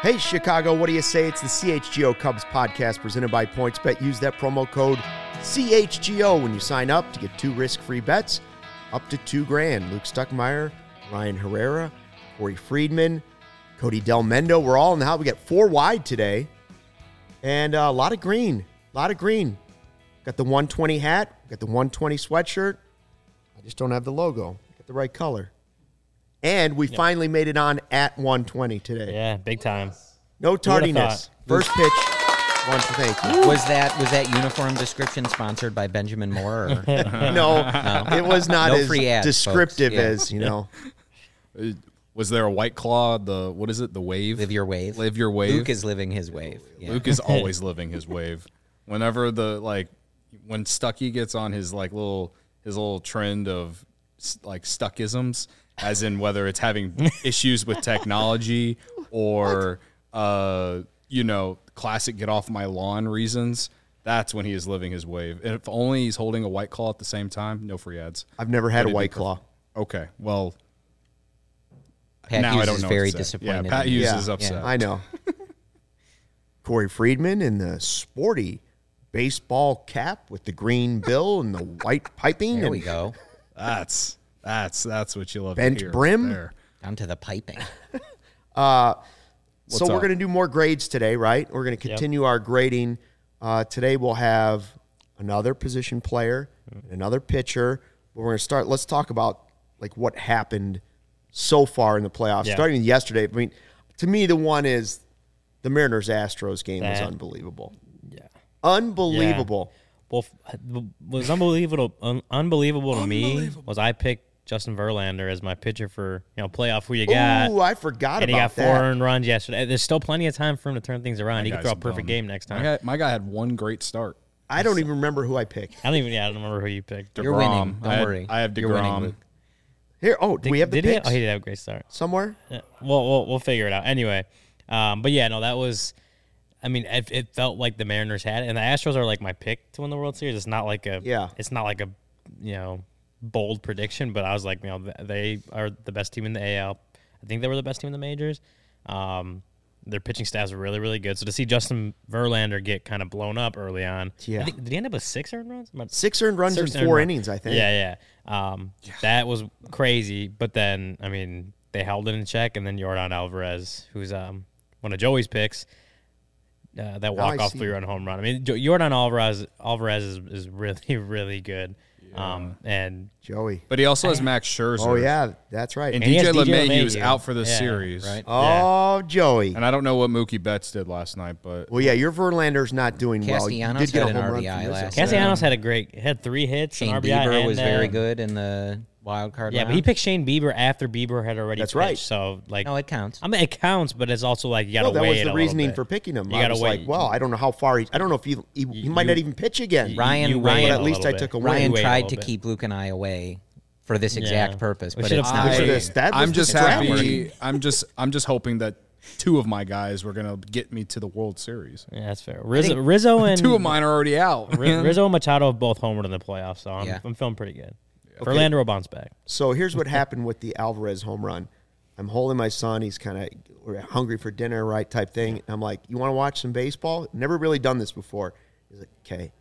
Hey, Chicago, what do you say? It's the CHGO Cubs podcast presented by PointsBet. Use that promo code CHGO when you sign up to get 2 risk-free bets up to $2,000. Luke Stuckmeyer, Ryan Herrera, Corey Friedman, Cody Del Mendo. We're all in the house. We got 4 wide today and a lot of green. Got the 120 hat, got the 120 sweatshirt. I just don't have the logo. Got the right color. And we finally made it on at 120 today. Yeah, big time. No tardiness. First pitch. Thank you. Was that uniform description sponsored by Benjamin Moore? Or? No, it was not No as free ads, descriptive folks. Yeah. as, Was there a White Claw, the wave? Live your wave. Live your wave. Luke is living his wave. Yeah. Luke is always living his wave. Whenever when Stucky gets on his little trend of Stuckisms, as in whether it's having issues with technology or classic get off my lawn reasons, that's when he is living his wave. And if only he's holding a White Claw at the same time, no free ads. I've never had a White Claw. Okay, well, Pat now Hughes I don't is know very what to say. disappointed. Yeah, Pat Hughes is upset. I know. Corey Friedman in the sporty baseball cap with the green bill and the white piping. There and we go. That's what you love Bent to hear. brim. There. Down to the piping. So we're going to do more grades today, right? We're going to continue our grading. Today we'll have another position player, another pitcher. But we're going to start. Let's talk about what happened so far in the playoffs. Yeah. Starting yesterday. I mean, to me, the one is the Mariners-Astros game was unbelievable. Yeah. Unbelievable. Well, was unbelievable to me was I picked Justin Verlander as my pitcher for playoff. Who you got? Ooh, I forgot and about he got 4 that. earned runs yesterday. There's still plenty of time for him to turn things around. He could guy's throw a perfect dumb. game next time. My guy had one great start. I don't even remember who I picked. I don't remember who you picked. You're winning. Don't worry. I have You're winning, DeGrom. Luke. Here, do we have the Did he? picks Oh, he did have a great start. somewhere? Yeah. We'll figure it out. Anyway, but yeah, no, that was. I mean, it felt like the Mariners had it, and the Astros are my pick to win the World Series. It's not like a It's not like a bold prediction, but I was like, they are the best team in the AL. I think they were the best team in the majors. Their pitching staffs are really, really good. So to see Justin Verlander get kind of blown up early on, Yeah. did he end up with 6 earned runs? 6 earned runs in 4 innings, I think. Yeah. That was crazy. But then, I mean, they held it in check, and then Yordan Alvarez, who's one of Joey's picks, that walk-off 3-run home run. I mean, Yordan Alvarez is really, really good. And Joey. But he also has Max Scherzer. Oh, yeah, that's right. And he has DJ DJ LeMahieu is LeMahieu. out for the Yeah, series. right. Oh, Joey. And I don't know what Mookie Betts did last night, but Well, yeah, your Verlander's not doing well. You Castellanos did get had a an home run RBI from Rizzo. last Castellanos had 3 hits, Shane an RBI, Bieber and, was very good in the wild card Yeah, round. but he picked Shane Bieber after Bieber had already That's pitched. right. So, No, it counts. I mean, it counts, but it's also you got to No, that wait was it the a reasoning little for bit. picking him. You I gotta was wait. like, well, I don't know how far I don't know if he might not even pitch again. Ryan- but wait at a least little I bit. took a win. Ryan wait a tried little to bit. keep Luke and I away for this exact purpose, We but should've it's fought not. for this. That was I'm the just strategy. happy. I'm just hoping that 2 of my guys were gonna get me to the World Series. Yeah, that's fair. Rizzo and 2 of mine are already out. Rizzo and Machado have both homered in the playoffs, so Yeah. I'm feeling pretty good. Verlander will bounce back. So here's what happened with the Alvarez home run. I'm holding my son. He's kind of hungry for dinner, right, type thing. And I'm like, you want to watch some baseball? Never really done this before. He's like, okay.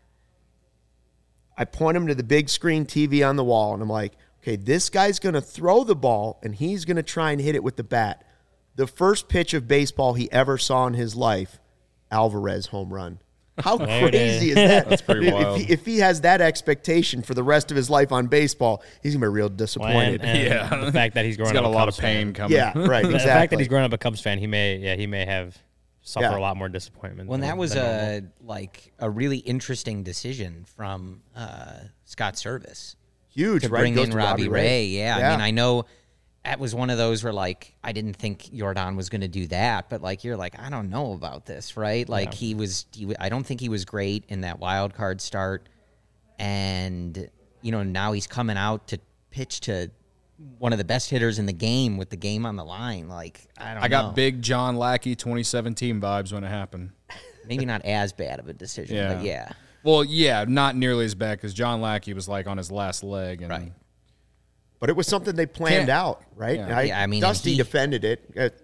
I point him to the big screen TV on the wall, and I'm like, okay, this guy's going to throw the ball, and he's going to try and hit it with the bat. The first pitch of baseball he ever saw in his life, Alvarez home run. How There it crazy is is. that? That's pretty wild. If he has that expectation for the rest of his life on baseball, he's going to be real disappointed. And the fact that he's growing He's got up a lot Cubs of pain fan. coming. Yeah, right, The fact exactly. that he's growing up a Cubs fan, he may have suffered Yeah. a lot more disappointment. Well, than- that was than normal. a really interesting decision from Scott Service Huge, to right? bring Goes in to Robbie Ray. Yeah, Yeah. I mean, I know that was one of those where I didn't think Yordan was going to do that, but you're like, I don't know about this, right? I don't think he was great in that wild card start, and now he's coming out to pitch to one of the best hitters in the game with the game on the line. I got big John Lackey 2017 vibes when it happened. maybe not as bad of a decision, Yeah. but yeah. Well, yeah, not nearly as bad because John Lackey was on his last leg. And Right. But it was something they planned Can't- out, right? Yeah. Yeah, I mean, Dusty and he- defended it.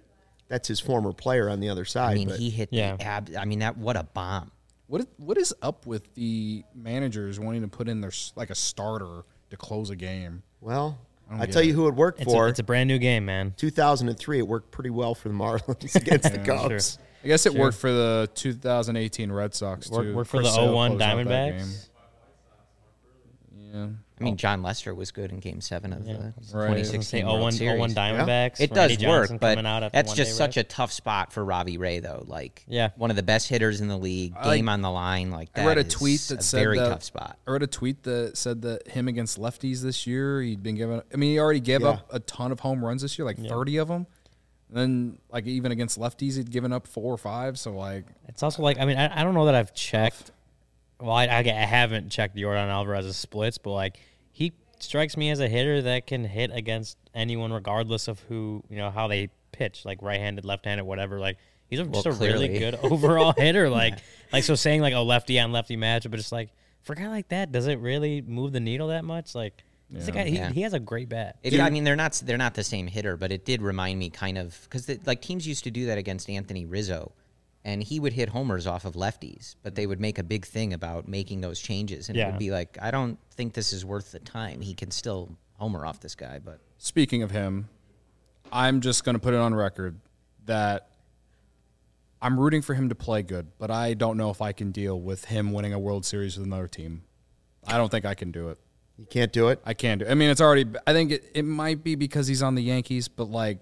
that's his former player on the other side. I mean, he hit the what a bomb. What is up with the managers wanting to put in their like a starter to close a game? Well, I tell you who it worked for. It's a brand new game, man. 2003, it worked pretty well for the Marlins against the Cubs. Sure. I guess it worked for the 2018 Red Sox too. Worked for the 01 Diamondbacks. Yeah. I mean, John Lester was good in Game 7 of the 2016 World Series. 01 Diamondbacks. It does work, but that's just such a tough spot for Robbie Ray, though. Like, one of the best hitters in the league, game on the line. Like, that I read a tweet that said very tough spot. I read a tweet that said that him against lefties this year, he'd been given. I mean, he already gave up a ton of home runs this year, like 30 of them. And then, like, even against lefties, he'd given up 4 or 5. So, like, it's also like, I mean, I don't know that I've checked. Well, I haven't checked Yordan Alvarez's splits, but like he strikes me as a hitter that can hit against anyone, regardless of who, how they pitch, like right-handed, left-handed, whatever. Like he's just a really good overall hitter. Like so saying like a lefty on lefty matchup, but just like for a guy like that, does it really move the needle that much? Like he's a guy, he has a great bat. I mean, they're not the same hitter, but it did remind me kind of because like teams used to do that against Anthony Rizzo. And he would hit homers off of lefties, but they would make a big thing about making those changes. And it would be like, I don't think this is worth the time. He can still homer off this guy. But speaking of him, I'm just going to put it on record that I'm rooting for him to play good, but I don't know if I can deal with him winning a World Series with another team. I don't think I can do it. You can't do it? I can't do it. I mean, it's already – I think it might be because he's on the Yankees, but, like,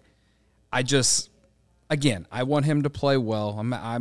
Again, I want him to play well.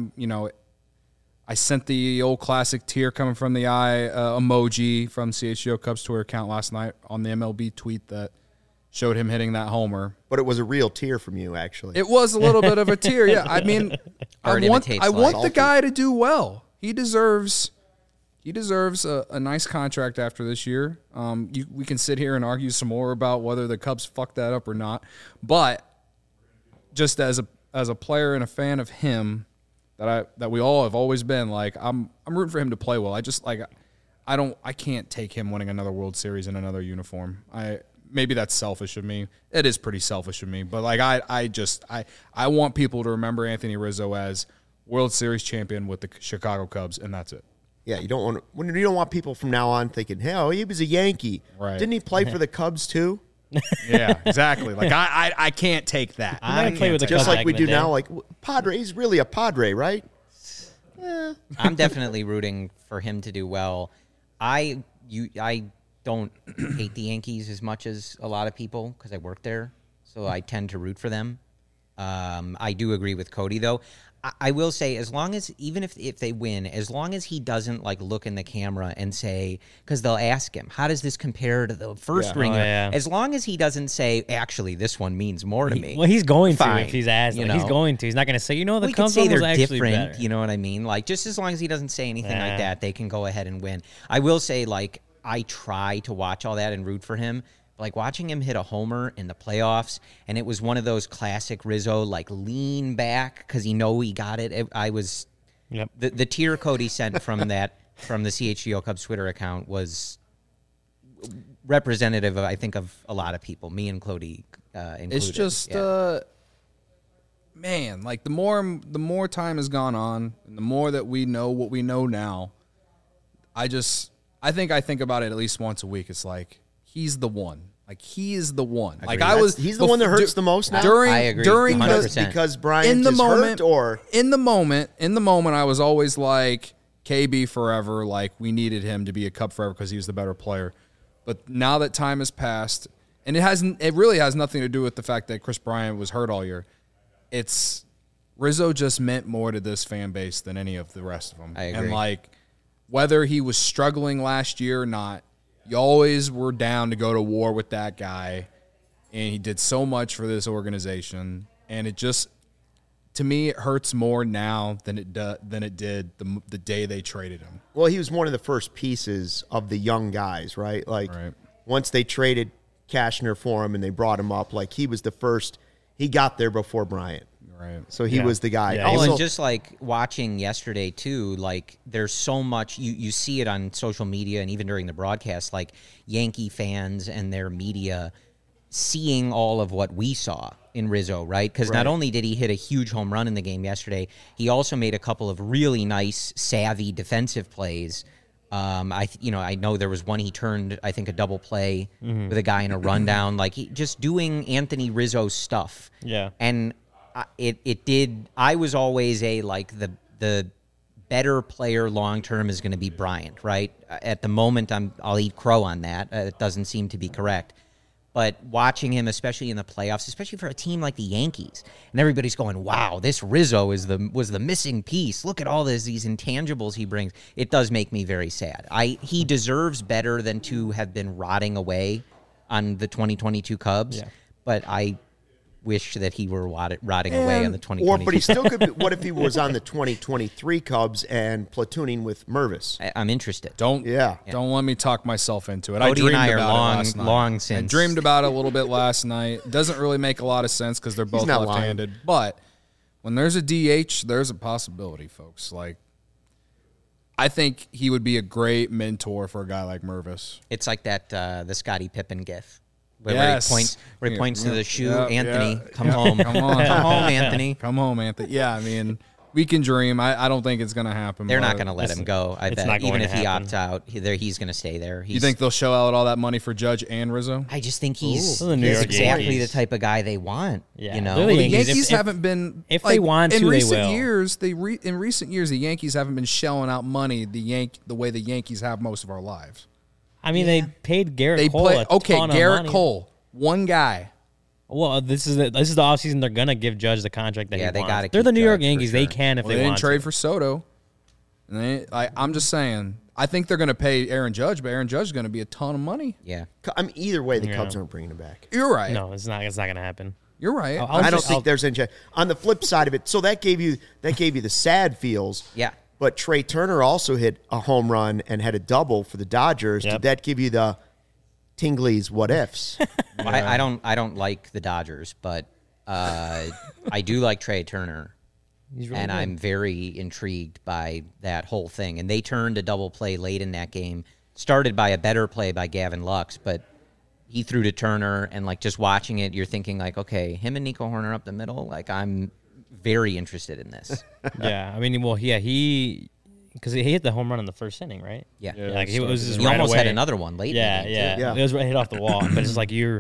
I sent the old classic tear coming from the eye emoji from CHGO Cubs Twitter account last night on the MLB tweet that showed him hitting that homer. But it was a real tear from you, actually. It was a little bit of a tear, yeah. I mean, I want the guy to do well. He deserves a nice contract after this year. We can sit here and argue some more about whether the Cubs fucked that up or not, but just as a player and a fan of him that we all have always been, like I'm rooting for him to play well. I just like I can't take him winning another World Series in another uniform. Maybe that's selfish of me. It is pretty selfish of me, but like I want people to remember Anthony Rizzo as World Series champion with the Chicago Cubs, and that's it. Yeah, you don't want people from now on thinking, "Hell, he was a Yankee. Right. Didn't he play for the Cubs too?" Yeah, exactly. Like I can't take that. I play with the just Cubs like we do now. Like Padre, he's really a Padre, right? Yeah. I'm definitely rooting for him to do well. I don't hate the Yankees as much as a lot of people because I work there, so I tend to root for them. I do agree with Cody though. I will say, as long as, even if they win, as long as he doesn't like look in the camera and say, because they'll ask him, how does this compare to the first ringer? As long as he doesn't say, actually, this one means more to me. Well, he's going to if he's asked. He's going to. He's not going to say, the Cubs one was actually different. Better. You know what I mean? Like, just as long as he doesn't say anything like that, they can go ahead and win. I will say, like, I try to watch all that and root for him. Like watching him hit a homer in the playoffs, and it was one of those classic Rizzo, like lean back because he got it. I was the tear Cody sent from the CHGO Cubs Twitter account was representative, I think, of a lot of people, me and Cody included. It's just, man, like the more time has gone on, and the more that we know what we know now, I think about it at least once a week. It's like, he's the one. Like, he is the one. Like, he's the one that hurts the most now. I agree. Because Bryant is hurt, or in the moment, I was always like, KB forever. Like, we needed him to be a Cub forever because he was the better player. But now that time has passed, and it really has nothing to do with the fact that Chris Bryant was hurt all year. It's Rizzo just meant more to this fan base than any of the rest of them. I agree. And like, whether he was struggling last year or not, you always were down to go to war with that guy, and he did so much for this organization. And it just, to me, it hurts more now than it did the day they traded him. Well, he was one of the first pieces of the young guys, right? Like, once they traded Cashner for him and they brought him up, like, he was the first. He got there before Bryant. Right. So he was the guy. Yeah. Also, and just like watching yesterday too, like there's so much you see it on social media and even during the broadcast, like Yankee fans and their media seeing all of what we saw in Rizzo, right? Because not only did he hit a huge home run in the game yesterday, he also made a couple of really nice, savvy defensive plays. I know there was one he turned, I think, a double play with a guy in a rundown, like just doing Anthony Rizzo stuff. Yeah, and it did. I was always the better player long term is going to be Bryant, right? At the moment, I'll eat crow on that. It doesn't seem to be correct. But watching him, especially in the playoffs, especially for a team like the Yankees, and everybody's going, "Wow, this Rizzo was the missing piece. Look at all these intangibles he brings." It does make me very sad. He deserves better than to have been rotting away on the 2022 Cubs. But I wish that he were rotting away on the 2022. But he still could be. What if he was on the 2023 Cubs and platooning with Mervis? I'm interested. Don't let me talk myself into it. Cody I dreamed and I are about it last night. long since. I dreamed about it a little bit last night. Doesn't really make a lot of sense because they're both left-handed. Lying. But when there's a DH, there's a possibility, folks. Like, I think he would be a great mentor for a guy like Mervis. It's like that the Scottie Pippen gif. Where he points to the shoe, Anthony, come home. Come on. Come home, Anthony. Come home, Anthony. Yeah, I mean, we can dream. I don't think it's going to happen. They're not going to let him go, I bet. Even if he opts out, he's going to stay there. You think they'll show out all that money for Judge and Rizzo? I just think he's exactly the type of guy they want. Yeah. You know? Well, the Yankees haven't been. If they want to, in recent they will. years, in recent years, the Yankees haven't been shelling out money the way the Yankees have most of our lives. I mean, they paid Garrett Cole a ton of Garrett money. Cole, one guy. Well, this is the offseason. They're gonna give Judge the contract that he wants. they got to. They're the New York Yankees. Sure. They can if They want didn't trade to. for Soto. And I'm just saying. I think they're going to pay Aaron Judge, but Aaron Judge is going to be a ton of money. Yeah. I mean, either way, the Cubs aren't bringing him back. You're right. No, it's not. It's not gonna happen. You're right. I don't think there's any chance. On the flip side of it, so that gave you the sad feels. Yeah. But Trey Turner also hit a home run and had a double for the Dodgers. Yep. Did that give you the Tingley's what ifs? I don't like the Dodgers, but I do like Trey Turner. He's really and good. I'm very intrigued by that whole thing. And they turned a double play late in that game, started by a better play by Gavin Lux, but he threw to Turner, and like just watching it, you're thinking like, okay, him and Nico Horner up the middle, like I'm very interested in this. Yeah, I mean, well, yeah, because he hit the home run in the first inning, right? Yeah. Like he was just He right almost away. had another one late. Yeah, in the game, too. yeah, it was right hit off the wall. But it's like you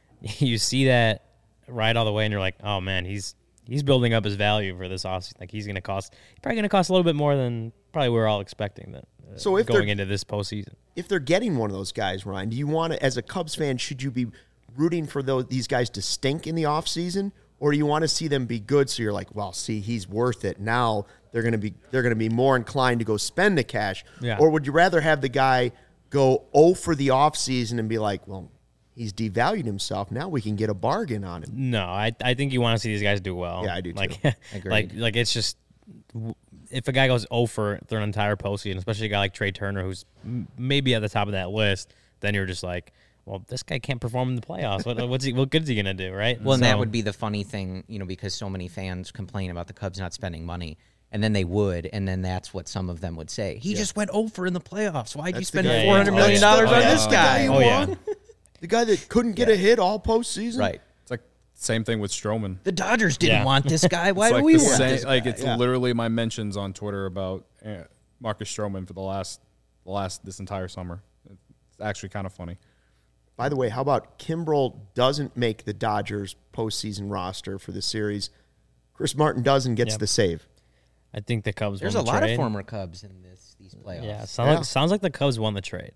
see that right all the way, and you're like, oh man, he's building up his value for this offseason. Like he's probably gonna cost a little bit more than probably we're all expecting that. So if going into this postseason, if they're getting one of those guys, Ryan, do you want to, as a Cubs fan, should you be rooting for these guys to stink in the offseason, or do you want to see them be good? So you're like, well, see, he's worth it. Now they're gonna be more inclined to go spend the cash. Yeah. Or would you rather have the guy go 0 for the offseason and be like, well, he's devalued himself. Now we can get a bargain on him. no, I think you want to see these guys do well. Yeah, I do too. Like, Agreed. like it's just if a guy goes 0 for their entire postseason, especially a guy like Trey Turner, who's maybe at the top of that list, then you're just like, well, this guy can't perform in the playoffs. What good is he gonna do, right? Well, and that would be the funny thing, because so many fans complain about the Cubs not spending money, and then they would, and then that's what some of them would say. He just went over in the playoffs. Why'd you spend $400 million on this guy? Oh, yeah. The guy that couldn't get a hit all postseason? Right. It's like same thing with Stroman. The Dodgers didn't want this guy. Why It's do we the want same- this guy? Like it's literally my mentions on Twitter about Marcus Stroman for the last this entire summer. It's actually kind of funny. By the way, how about Kimbrel doesn't make the Dodgers postseason roster for the series? Chris Martin does and gets the save. I think the Cubs. There's a won the lot trade. of former Cubs in these playoffs. Yeah, sounds like the Cubs won the trade.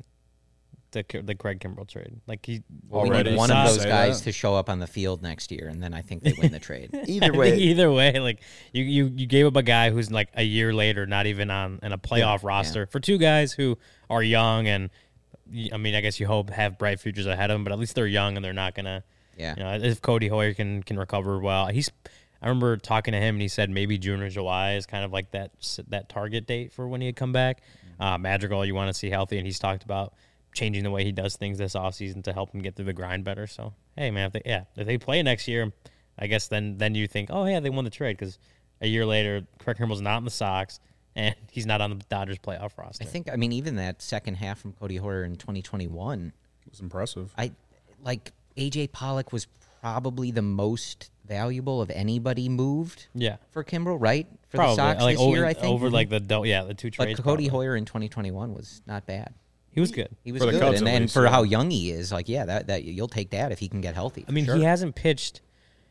The Craig Kimbrel trade. Like he We Already need one of those say guys that. to show up on the field next year, and then I think they win the trade. Either way, like you gave up a guy who's like a year later, not even in a playoff roster for two guys who are young and. I mean, I guess you hope have bright futures ahead of them, but at least they're young and they're not gonna. Yeah. If Cody Hoyer can recover well, I remember talking to him and he said maybe June or July is kind of like that target date for when he'd come back. Madrigal, you want to see healthy, and he's talked about changing the way he does things this offseason to help him get through the grind better. So hey, man, if they play next year, I guess then you think, oh yeah, they won the trade because a year later, Craig Kimbrel's not in the Sox. And he's not on the Dodgers playoff roster. I mean, even that second half from Cody Hoyer in 2021 It was impressive. AJ Pollock was probably the most valuable of anybody moved. Yeah, for Kimbrel, right? For probably. the Sox like this year, I think over like the 2 trades. But Cody Hoyer in 2021 was not bad. He was good. He was good, and for how young he is, like that you'll take that if he can get healthy. I mean, he hasn't pitched.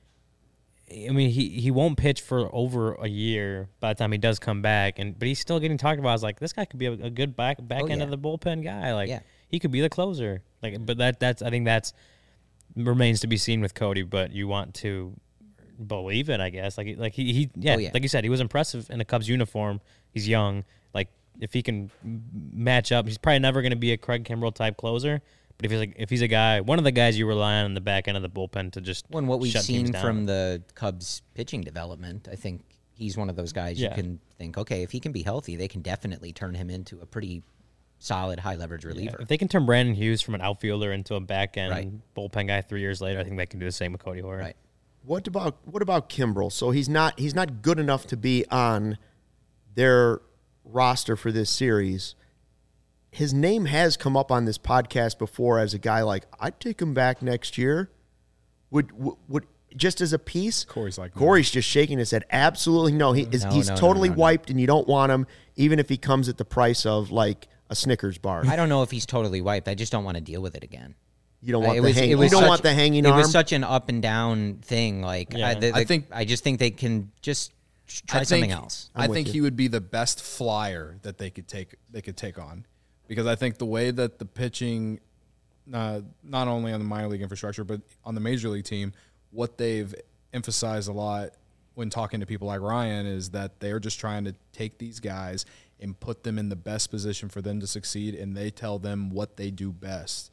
I mean, he won't pitch for over a year by the time he does come back, but he's still getting talked about as like this guy could be a good back end of the bullpen guy. Like he could be the closer. Like, but that's I think that's remains to be seen with Cody. But you want to believe it, I guess. Like like you said, he was impressive in a Cubs uniform. He's young. Like if he can match up, he's probably never going to be a Craig Kimbrel type closer. But if he's a guy, one of the guys you rely on the back end of the bullpen to just when what we've shut seen down. From the Cubs pitching development, I think he's one of those guys you can think, okay, if he can be healthy, they can definitely turn him into a pretty solid high leverage reliever. If they can turn Brandon Hughes from an outfielder into a back end bullpen guy 3 years later, I think they can do the same with Cody Hoyer. Right. What about Kimbrel? So he's not good enough to be on their roster for this series. His name has come up on this podcast before as a guy like, I'd take him back next year. Would just as a piece? Corey's just shaking his head. Absolutely no. He's totally wiped, and you don't want him, even if he comes at the price of like a Snickers bar. I don't know if he's totally wiped. I just don't want to deal with it again. You don't want want the hanging arm. It was such an up and down thing. Like I just think they can just try something else. I think he would be the best flyer that they could take on. Because I think the way that the pitching, not only on the minor league infrastructure, but on the major league team, what they've emphasized a lot when talking to people like Ryan is that they're just trying to take these guys and put them in the best position for them to succeed, and they tell them what they do best.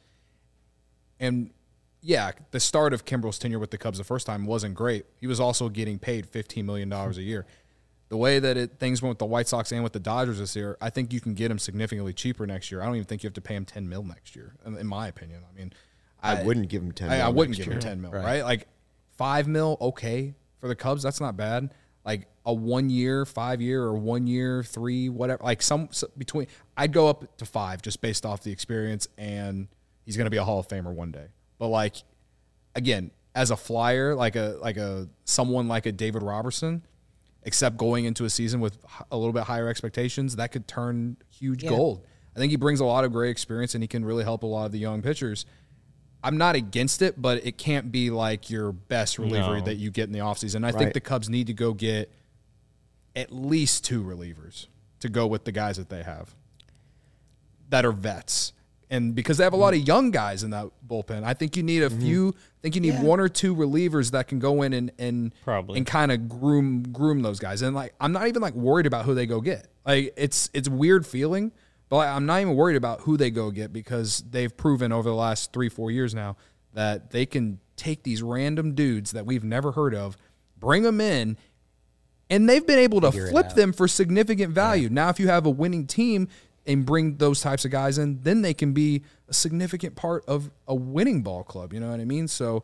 And, yeah, the start of Kimbrel's tenure with the Cubs the first time wasn't great. He was also getting paid $15 million a year. The way that things went with the White Sox and with the Dodgers this year, I think you can get him significantly cheaper next year. I don't even think you have to pay him $10 million next year, in my opinion. I mean, I wouldn't give him $10 million. I wouldn't give him $10 million, right? Like $5 million, okay, for the Cubs, that's not bad. Like a 1 year, 5 year, or 1 year, 3, whatever. Like some between, I'd go up to 5 just based off the experience, and he's going to be a Hall of Famer one day. But like, again, as a flyer, like someone like a David Robertson. Except going into a season with a little bit higher expectations, that could turn huge gold. I think he brings a lot of great experience, and he can really help a lot of the young pitchers. I'm not against it, but it can't be like your best reliever that you get in the offseason. I think the Cubs need to go get at least 2 relievers to go with the guys that they have that are vets. And because they have a lot of young guys in that bullpen, I think you need a few. I think you need 1 or 2 relievers that can go in and kind of groom those guys. And like, I'm not even like worried about who they go get. Like it's a weird feeling, but like, I'm not even worried about who they go get because they've proven over the last 3-4 years now that they can take these random dudes that we've never heard of, bring them in, and they've been able to flip them for significant value. Yeah. Now, if you have a winning team and bring those types of guys in, then they can be a significant part of a winning ball club. You know what I mean? So,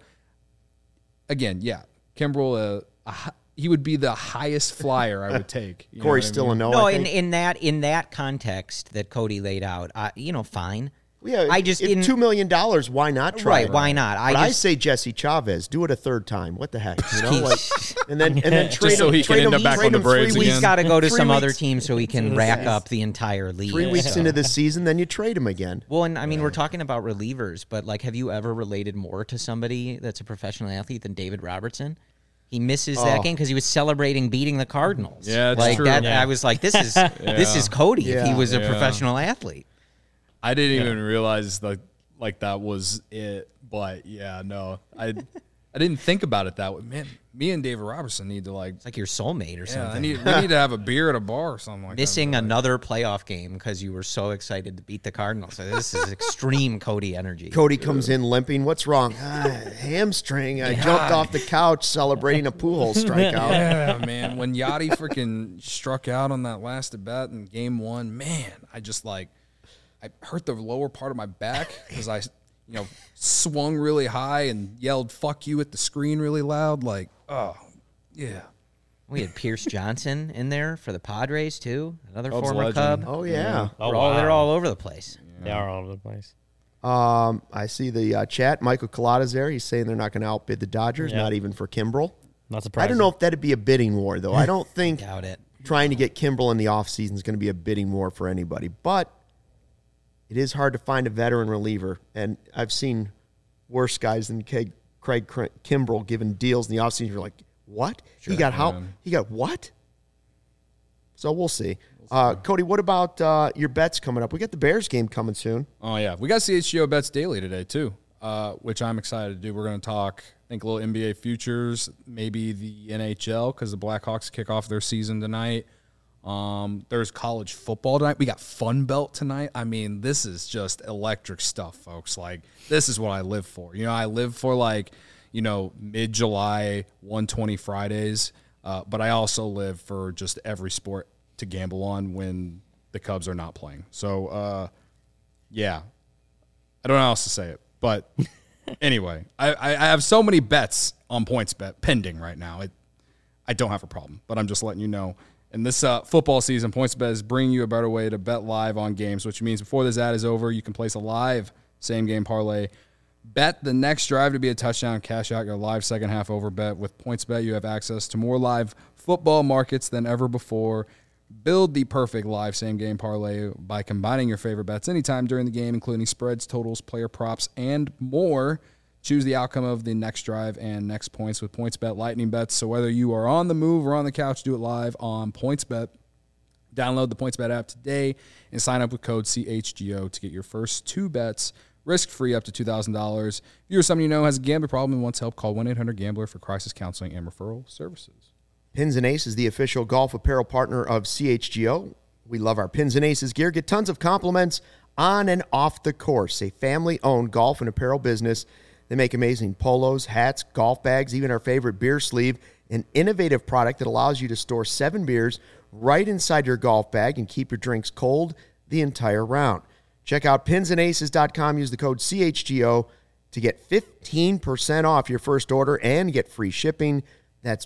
again, Kimbrel, he would be the highest flyer I would take. Corey's still a no. No, in that context that Cody laid out, fine. Yeah, I just $2 million. Why not try? Right? Why not? I say Jesse Chavez. Do it a third time. What the heck? You know, like, and then trade so him. He can end up back on the Braves again. He's got to go to some other team so he can rack up the entire league. 3 weeks into the season, then you trade him again. Well, and I mean, we're talking about relievers, but like, have you ever related more to somebody that's a professional athlete than David Robertson? He misses that game because he was celebrating beating the Cardinals. Yeah, like true. that. Yeah. I was like, this is Cody if he was a professional athlete. I didn't even realize that was it, but I didn't think about it that way. Man, me and David Robertson need to it's like your soulmate or something. We need to have a beer at a bar or something like Missing that. another playoff game because you were so excited to beat the Cardinals. So this is extreme Cody energy. Cody comes in limping. What's wrong? Hamstring. I jumped off the couch celebrating a Pujols strikeout. Yeah, man. When Yachty freaking struck out on that last at bat in Game 1, man, I just I hurt the lower part of my back because I swung really high and yelled "fuck you" at the screen really loud. Like, oh, yeah. We had Pierce Johnson in there for the Padres too, another Cubs former legend. Cub. Oh yeah, They're all over the place. Yeah. They are all over the place. I see the chat. Michael Collada's there. He's saying they're not going to outbid the Dodgers, not even for Kimbrel. Not surprising. I don't know if that'd be a bidding war, though. I don't think doubt it. Trying to get Kimbrel in the offseason is going to be a bidding war for anybody. But it is hard to find a veteran reliever. And I've seen worse guys than Craig Kimbrel given deals in the offseason. You're like, what? Sure, he got what? So we'll see. Cody, what about your bets coming up? We got the Bears game coming soon. Oh, yeah. We got CHGO Bets Daily today, too, which I'm excited to do. We're going to talk, I think, a little NBA futures, maybe the NHL, because the Blackhawks kick off their season tonight. There's college football tonight. We got Fun Belt tonight. I mean, this is just electric stuff, folks. Like, this is what I live for. You know, I live for, like, you know, mid-July 120 Fridays, but I also live for just every sport to gamble on when the Cubs are not playing. So, yeah, I don't know how else to say it, but anyway, I have so many bets on PointsBet pending right now. I don't have a problem, but I'm just letting you know. And this football season, PointsBet is bringing you a better way to bet live on games, which means before this ad is over, you can place a live same-game parlay. Bet the next drive to be a touchdown, cash out your live second half over bet. With PointsBet, you have access to more live football markets than ever before. Build the perfect live same-game parlay by combining your favorite bets anytime during the game, including spreads, totals, player props, and more. Choose the outcome of the next drive and next points with PointsBet Lightning Bets. So whether you are on the move or on the couch, do it live on PointsBet. Download the PointsBet app today and sign up with code CHGO to get your first 2 bets risk-free up to $2,000. If you or someone you know has a gambling problem and wants help, call 1-800-GAMBLER for crisis counseling and referral services. Pins and Ace is the official golf apparel partner of CHGO. We love our Pins and Aces gear. Get tons of compliments on and off the course. A family-owned golf and apparel business. They make amazing polos, hats, golf bags, even our favorite beer sleeve, an innovative product that allows you to store 7 beers right inside your golf bag and keep your drinks cold the entire round. Check out pinsandaces.com. Use the code CHGO to get 15% off your first order and get free shipping. That's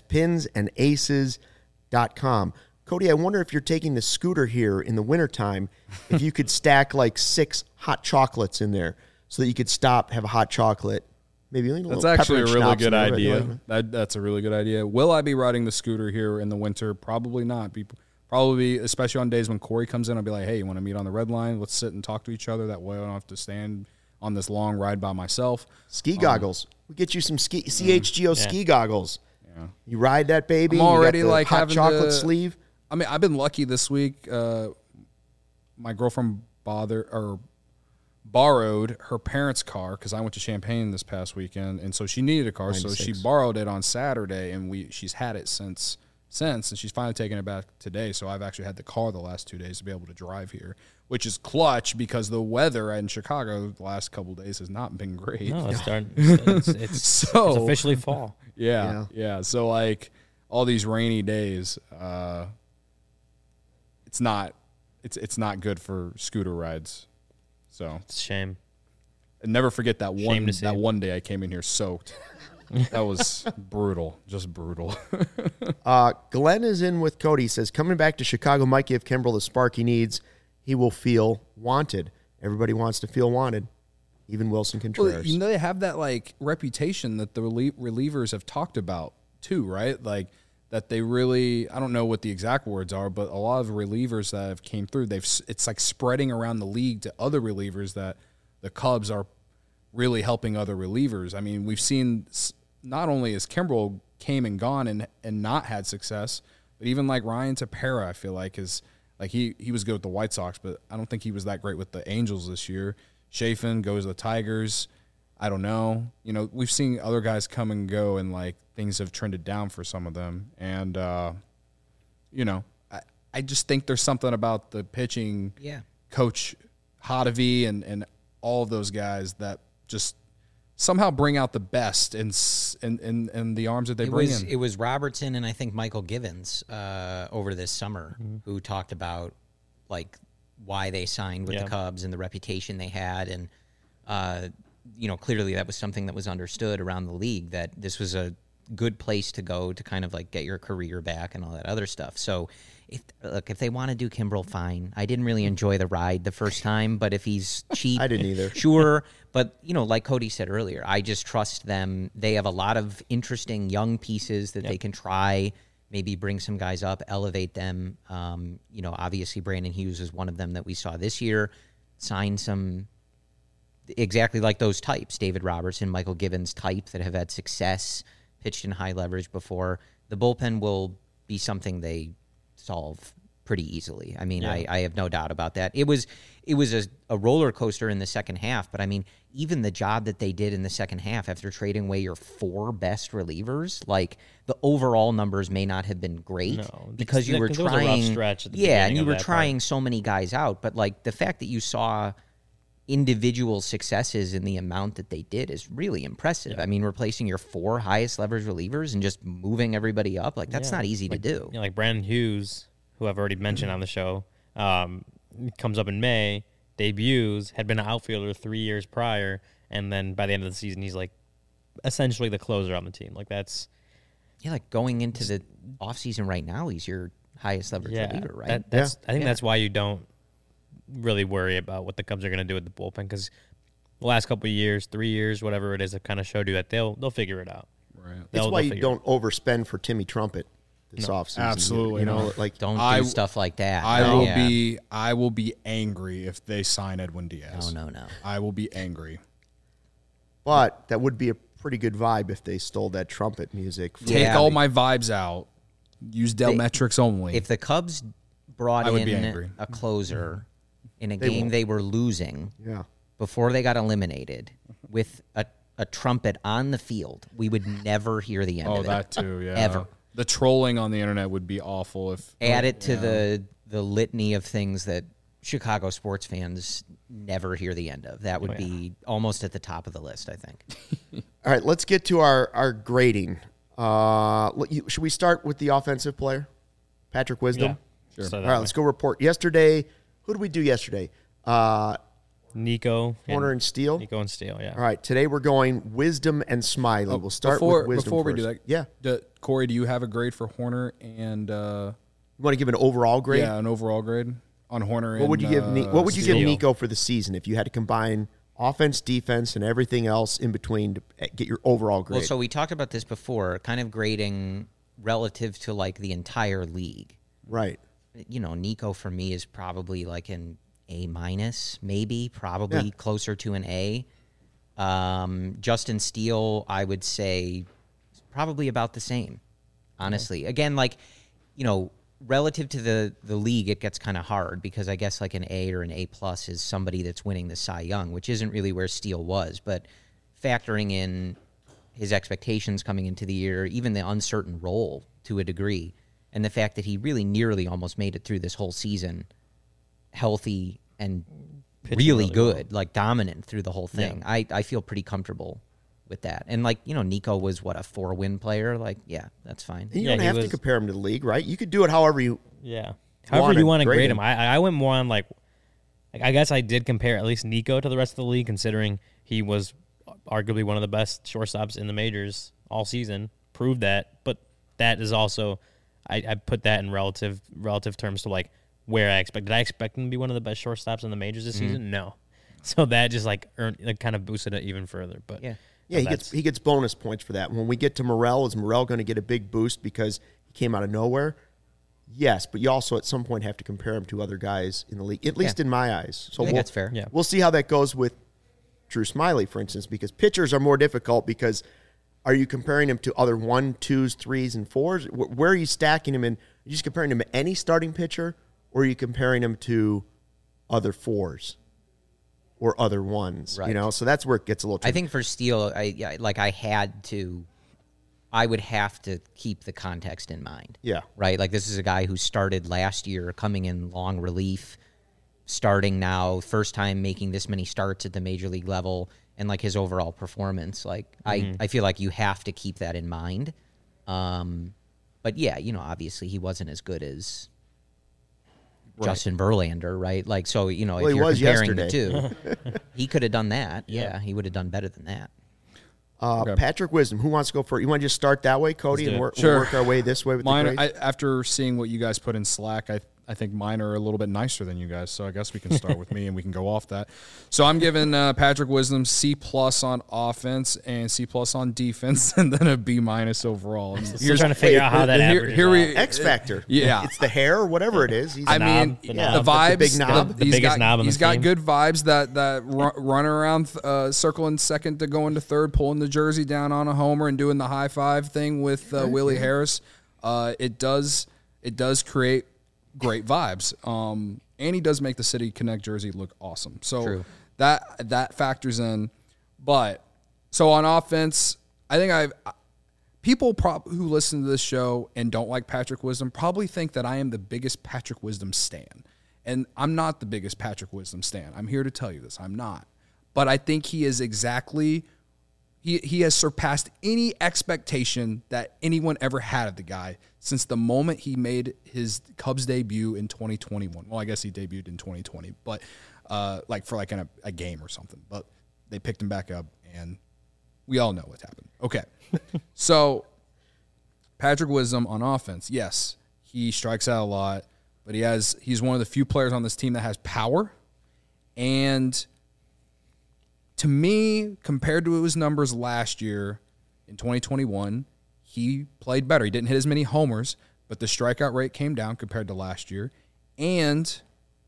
pinsandaces.com. Cody, I wonder if you're taking the scooter here in the wintertime, if you could stack like 6 hot chocolates in there so that you could stop, have a hot chocolate. Maybe a little That's actually a really good idea. That's a really good idea. Will I be riding the scooter here in the winter? Probably not. Probably, especially on days when Corey comes in, I'll be like, hey, you want to meet on the red line? Let's sit and talk to each other. That way I don't have to stand on this long ride by myself. Ski goggles. We get you some CHGO ski goggles. Yeah. You ride that baby. I'm already like hot having chocolate sleeve. I mean, I've been lucky this week. My girlfriend borrowed her parents' car because I went to Champaign this past weekend, and so she needed a car, 96. So she borrowed it on Saturday, and she's had it since, and she's finally taken it back today. So I've actually had the car the last 2 days to be able to drive here, which is clutch because the weather in Chicago the last couple of days has not been great. No, it's officially fall. Yeah. So like all these rainy days, it's not good for scooter rides. So it's a shame. And never forget that one day I came in here soaked. That was brutal, just brutal. Glenn is in with Cody. He says, coming back to Chicago might give Kimbrel the spark he needs. He will feel wanted. Everybody wants to feel wanted, even Wilson Contreras. Well, you know, they have that like reputation that the relievers have talked about too, right? Like that they really, I don't know what the exact words are, but a lot of relievers that have came through, it's like spreading around the league to other relievers that the Cubs are really helping other relievers. I mean, we've seen not only has Kimbrel came and gone and not had success, but even like Ryan Tepera, I feel like is like he was good with the White Sox, but I don't think he was that great with the Angels this year. Chafin goes to the Tigers. I don't know. You know, we've seen other guys come and go, and like things have trended down for some of them. And you know, I just think there's something about the pitching coach Hottovy and all of those guys that just somehow bring out the best in the arms that they bring in. It was Robertson and I think Michael Givens over this summer who talked about like why they signed with the Cubs and the reputation they had, and you know, clearly that was something that was understood around the league, that this was a good place to go to kind of like get your career back and all that other stuff. So if they want to do Kimbrel, fine. I didn't really enjoy the ride the first time, but if he's cheap, I didn't either. Sure. But, like Cody said earlier, I just trust them. They have a lot of interesting young pieces that they can try, maybe bring some guys up, elevate them. Obviously Brandon Hughes is one of them that we saw this year. Sign some exactly like those types, David Robertson, Michael Givens type that have had success, pitched in high leverage before. The bullpen will be something they solve pretty easily. I mean, I have no doubt about that. It was a roller coaster in the second half, but I mean, even the job that they did in the second half after trading away your 4 best relievers, like the overall numbers may not have been great because you were trying. There was a rough stretch at the and you were trying so many guys out, but like the fact that you saw individual successes in the amount that they did is really impressive. I mean, replacing your 4 highest leverage relievers and just moving everybody up, like that's not easy to do. Like Brandon Hughes, who I've already mentioned on the show, comes up in May, debuts, had been an outfielder 3 years prior, and then by the end of the season, he's like essentially the closer on the team. Like that's like going into the offseason right now, he's your highest leverage reliever, right? I think that's why you don't really worry about what the Cubs are going to do with the bullpen, because the last couple of years, 3 years, whatever it is, have kind of showed you that they'll figure it out. Right. That's why you don't overspend for Timmy Trumpet this offseason. Absolutely, don't do stuff like that. I will be angry if they sign Edwin Diaz. No. I will be angry. But that would be a pretty good vibe if they stole that trumpet music. Take all my vibes out. Use Dell metrics only. If the Cubs brought in a closer in a game they were losing before they got eliminated with a trumpet on the field, we would never hear the end of it. Oh, that too, yeah. Ever. The trolling on the internet would be awful if add it to the litany of things that Chicago sports fans never hear the end of. That would be almost at the top of the list, I think. All right, let's get to our grading. Should we start with the offensive player, Patrick Wisdom? Yeah, sure. All right, let's go report. Yesterday, who did we do yesterday? Nico, Horner, and Steele. Nico and Steele, yeah. All right, today we're going Wisdom and Smiley. We'll start with Wisdom before first. We do that. Yeah. Corey, do you have a grade for Horner and? You want to give an overall grade? Yeah, an overall grade on Horner. What would you give? What would you give Nico for the season if you had to combine offense, defense, and everything else in between to get your overall grade? Well, so we talked about this before, kind of grading relative to like the entire league. Right. Nico for me is probably like an A-, maybe, probably closer to an A. Justin Steele, I would say, is probably about the same, honestly. Again, relative to the league, it gets kind of hard because I guess like an A or an A+ is somebody that's winning the Cy Young, which isn't really where Steele was. But factoring in his expectations coming into the year, even the uncertain role to a degree, and the fact that he really nearly almost made it through this whole season healthy and really good, like dominant through the whole thing. Yeah. I feel pretty comfortable with that. And Nico was a 4-win player. That's fine. And you don't have to compare him to the league, right? You could do it however you however you want to grade him. I went more on I guess I did compare at least Nico to the rest of the league, considering he was arguably one of the best shortstops in the majors all season. Proved that, but that is also I put that in relative terms to where I expected. Did I expect him to be one of the best shortstops in the majors this season? No. So that just kind of boosted it even further. But he gets bonus points for that. When we get to Morel, is Morel going to get a big boost because he came out of nowhere? Yes, but you also at some point have to compare him to other guys in the league, at least in my eyes. So that's fair. Yeah. We'll see how that goes with Drew Smiley, for instance, because pitchers are more difficult because are you comparing him to other 1, 2s, 3s, and 4s? Where are you stacking him in? Are you just comparing him to any starting pitcher, or are you comparing him to other 4s or other 1s? Right. So that's where it gets a little tricky. I think for Steele, I would have to keep the context in mind. Yeah. Right? This is a guy who started last year, coming in long relief, starting now, first time making this many starts at the major league level, and his overall performance. I feel like you have to keep that in mind. But obviously he wasn't as good as Justin Verlander, right? If you're comparing the two, he could have done that. Yeah, he would have done better than that. Patrick Wisdom, who wants to go first? You want to just start that way, Cody, and we'll work our way this way with mine, the grades? After seeing what you guys put in Slack, I think mine are a little bit nicer than you guys, so I guess we can start with me and we can go off that. So I'm giving Patrick Wisdom C+ on offense and C+ on defense, and then a B- overall. You're trying to figure out how that averages out. X Factor. Yeah. It's the hair or whatever it is. The vibes. The big knob. The biggest knob on He's the got team. good vibes that run around circling second to go into third, pulling the jersey down on a homer and doing the high five thing with Willie Harris. It does create great vibes. And he does make the City Connect jersey look awesome. So True. that factors in. But so on offense, I think people who listen to this show and don't like Patrick Wisdom probably think that I am the biggest Patrick Wisdom stan. And I'm not the biggest Patrick Wisdom stan. I'm here to tell you this. I'm not. But I think he is exactly he has surpassed any expectation that anyone ever had of the guy since the moment he made his Cubs debut in 2021. Well, I guess he debuted in 2020, but in a game or something. But they picked him back up, and we all know what happened. Okay, so Patrick Wisdom on offense, yes, he strikes out a lot, but he's one of the few players on this team that has power. And to me, compared to his numbers last year in 2021, he played better. He didn't hit as many homers, but the strikeout rate came down compared to last year. And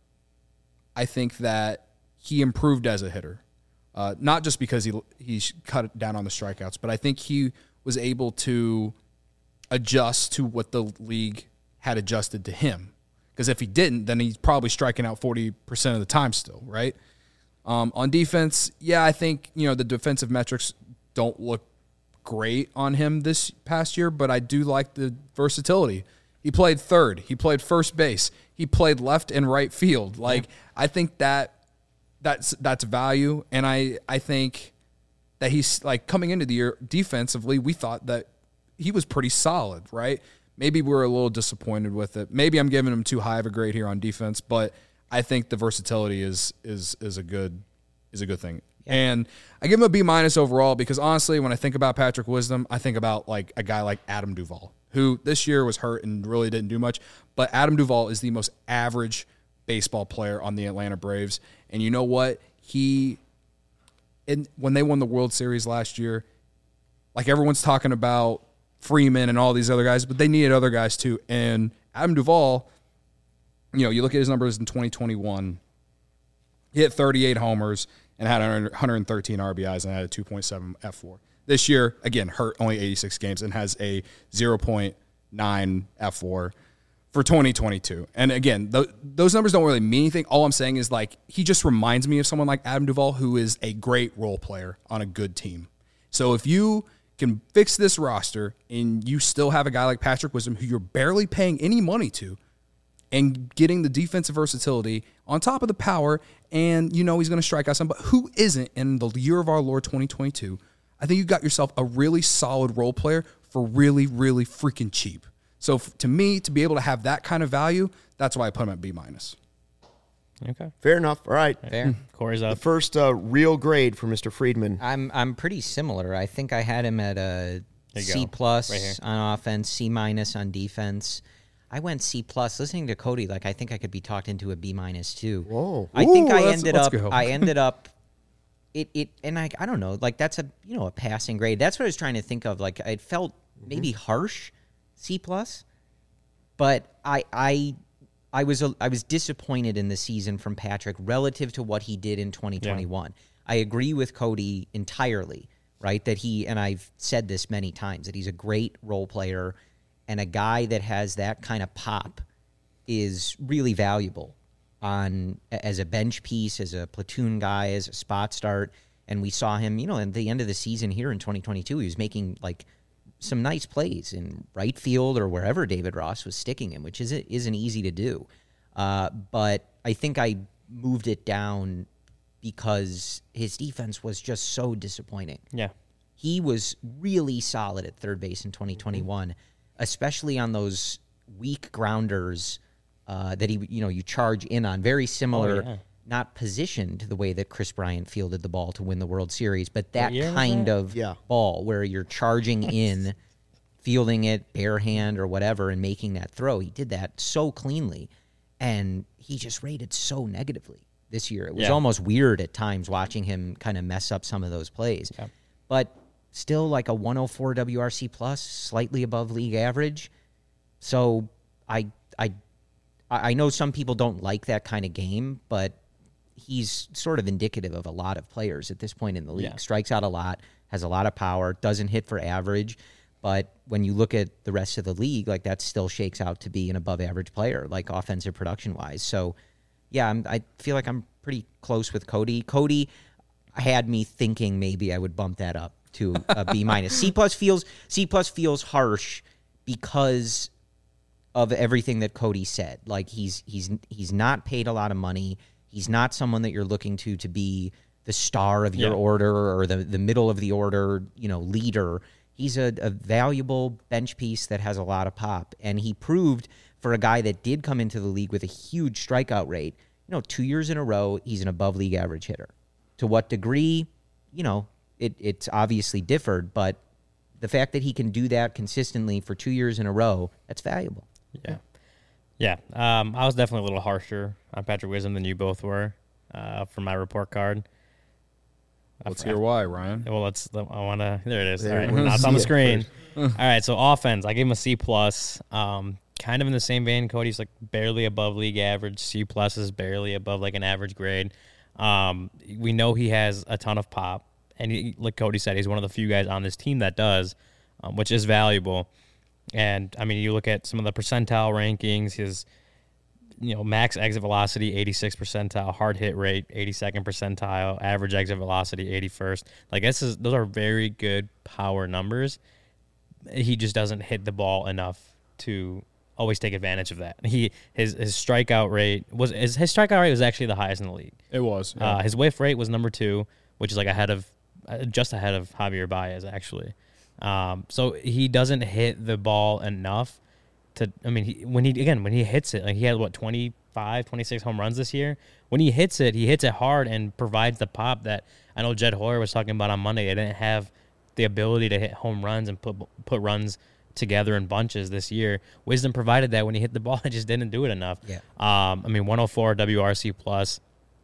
I think that he improved as a hitter. Not just because he cut down on the strikeouts, but I think he was able to adjust to what the league had adjusted to him. Because if he didn't, then he's probably striking out 40% of the time still, right? On defense, yeah, I think the defensive metrics don't look great on him this past year, but I do like the versatility. He played third. He played first base. He played left and right field. I think that's value, and I think that he's coming into the year defensively, we thought that he was pretty solid, right? Maybe we're a little disappointed with it. Maybe I'm giving him too high of a grade here on defense, but I think the versatility is a good thing. Yeah. And I give him a B- overall because honestly, when I think about Patrick Wisdom, I think about a guy like Adam Duvall, who this year was hurt and really didn't do much. But Adam Duvall is the most average baseball player on the Atlanta Braves. And you know what? When they won the World Series last year, everyone's talking about Freeman and all these other guys, but they needed other guys too. And Adam Duvall, you look at his numbers in 2021, he hit 38 homers and had 113 RBIs and had a 2.7 F4. This year, again, hurt only 86 games and has a 0.9 F4 for 2022. And again, those numbers don't really mean anything. All I'm saying is he just reminds me of someone like Adam Duvall, who is a great role player on a good team. So if you can fix this roster and you still have a guy like Patrick Wisdom, who you're barely paying any money to, and getting the defensive versatility on top of the power, and he's going to strike out some, but who isn't in the year of our Lord 2022? I think you got yourself a really solid role player for really, really freaking cheap. So to me, to be able to have that kind of value, that's why I put him at B-. Okay, fair enough. All right, fair. Corey's up. The first real grade for Mr. Friedman. I'm pretty similar. I think I had him at a C+ right on offense, C- on defense. I went C+. Listening to Cody, I think I could be talked into a B- too. Whoa! I think I ended up. And I don't know. That's a passing grade. That's what I was trying to think of. It felt maybe harsh, C+, but I was disappointed in the season from Patrick relative to what he did in 2021. Yeah. I agree with Cody entirely. Right, that and I've said this many times, that he's a great role player. And a guy that has that kind of pop is really valuable as a bench piece, as a platoon guy, as a spot start. And we saw him, at the end of the season here in 2022, he was making some nice plays in right field or wherever David Ross was sticking him, which isn't easy to do. But I think I moved it down because his defense was just so disappointing. Yeah. He was really solid at third base in 2021. Especially on those weak grounders that you charge in on. Very similar not positioned the way that Chris Bryant fielded the ball to win the World Series, but that kind of ball where you're charging in, fielding it bare hand or whatever, and making that throw. He did that so cleanly, and he just rated so negatively this year. It was almost weird at times watching him kind of mess up some of those plays. Yeah. But still like a 104 WRC plus, slightly above league average. So I know some people don't like that kind of game, but he's sort of indicative of a lot of players at this point in the league. Yeah. Strikes out a lot, has a lot of power, doesn't hit for average. But when you look at the rest of the league, like that still shakes out to be an above average player, like offensive production wise. So yeah, I feel like I'm pretty close with Cody. Cody had me thinking maybe I would bump that up to a B minus. C plus feels harsh because of everything that Cody said. Like he's not paid a lot of money. He's not someone that you're looking to be the star of your order or the middle of the order, leader. He's a valuable bench piece that has a lot of pop. And he proved for a guy that did come into the league with a huge strikeout rate, 2 years in a row, he's an above league average hitter. To what degree, it's obviously differed, but the fact that he can do that consistently for 2 years in a row, that's valuable. Yeah. Yeah. I was definitely a little harsher on Patrick Wisdom than you both were for my report card. Let's hear why, Ryan. Well, there it is. All right. Now it's on the screen. All right. So offense, I gave him a C plus. Kind of in the same vein. Cody's like barely above league average. C plus is barely above like an average grade. We know he has a ton of pop. And like Cody said, he's one of the few guys on this team that does, which is valuable. And, I mean, you look at some of the percentile rankings, his, max exit velocity, 86th percentile, hard hit rate, 82nd percentile, average exit velocity, 81st. Like, those are very good power numbers. He just doesn't hit the ball enough to always take advantage of that. His strikeout rate was actually the highest in the league. It was. Yeah. His whiff rate was number 2, which is like just ahead of Javier Baez, actually. So he doesn't hit the ball enough when he hits it, like he had 25, 26 home runs this year. When he hits it hard and provides the pop that I know Jed Hoyer was talking about on Monday. They didn't have the ability to hit home runs and put runs together in bunches this year. Wisdom provided that when he hit the ball, it just didn't do it enough. Yeah. 104 WRC plus.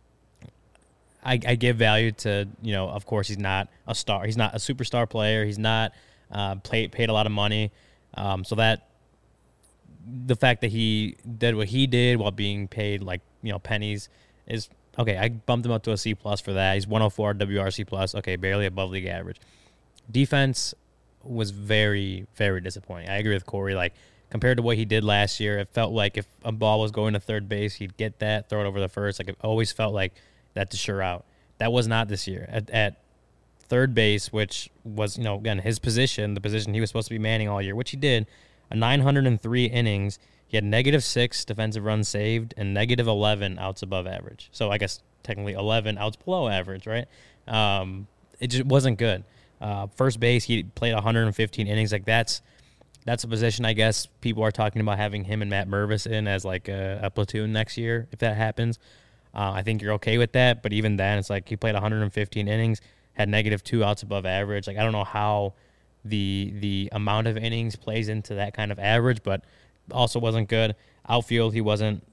I give value to, of course, he's not a star. He's not a superstar player. He's not paid a lot of money. So that the fact that he did what he did while being paid pennies is okay. I bumped him up to a C plus for that. He's 104 WRC plus. Okay, barely above league average. Defense was very, very disappointing. I agree with Corey. Like compared to what he did last year, it felt like if a ball was going to third base, he'd get that, throw it over the first. Like it always felt like that's a sure out. That was not this year. At third base, which was, again, his position, the position he was supposed to be manning all year, which he did, 903 innings. He had -6 defensive runs saved and -11 outs above average. So I guess technically 11 outs below average, right? It just wasn't good. First base, he played 115 innings. Like that's a position I guess people are talking about having him and Matt Mervis in as like a platoon next year if that happens. I think you're okay with that, but even then, it's like he played 115 innings, had -2 outs above average. Like I don't know how the amount of innings plays into that kind of average, but also wasn't good. Outfield, he wasn't.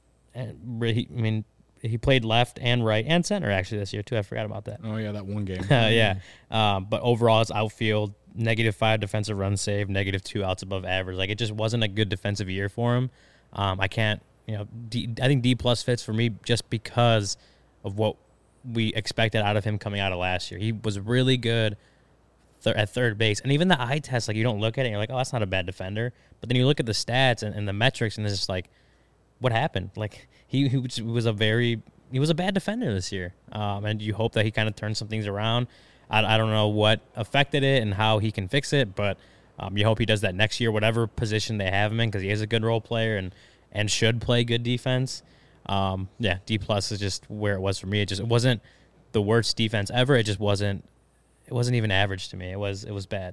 He played left and right and center actually this year too. I forgot about that. Oh yeah, that one game. Yeah, but overall, his outfield -5 defensive runs saved, -2 outs above average. Like it just wasn't a good defensive year for him. I can't. I think D plus fits for me just because of what we expected out of him coming out of last year. He was really good at third base. And even the eye test, like you don't look at it and you're like, oh, that's not a bad defender. But then you look at the stats and the metrics and it's just like, what happened? Like he was a bad defender this year. And you hope that he kind of turns some things around. I don't know what affected it and how he can fix it, but you hope he does that next year, whatever position they have him in, because he is a good role player and should play good defense. D plus is just where it was for me. It wasn't the worst defense ever. It just wasn't even average to me. It was bad.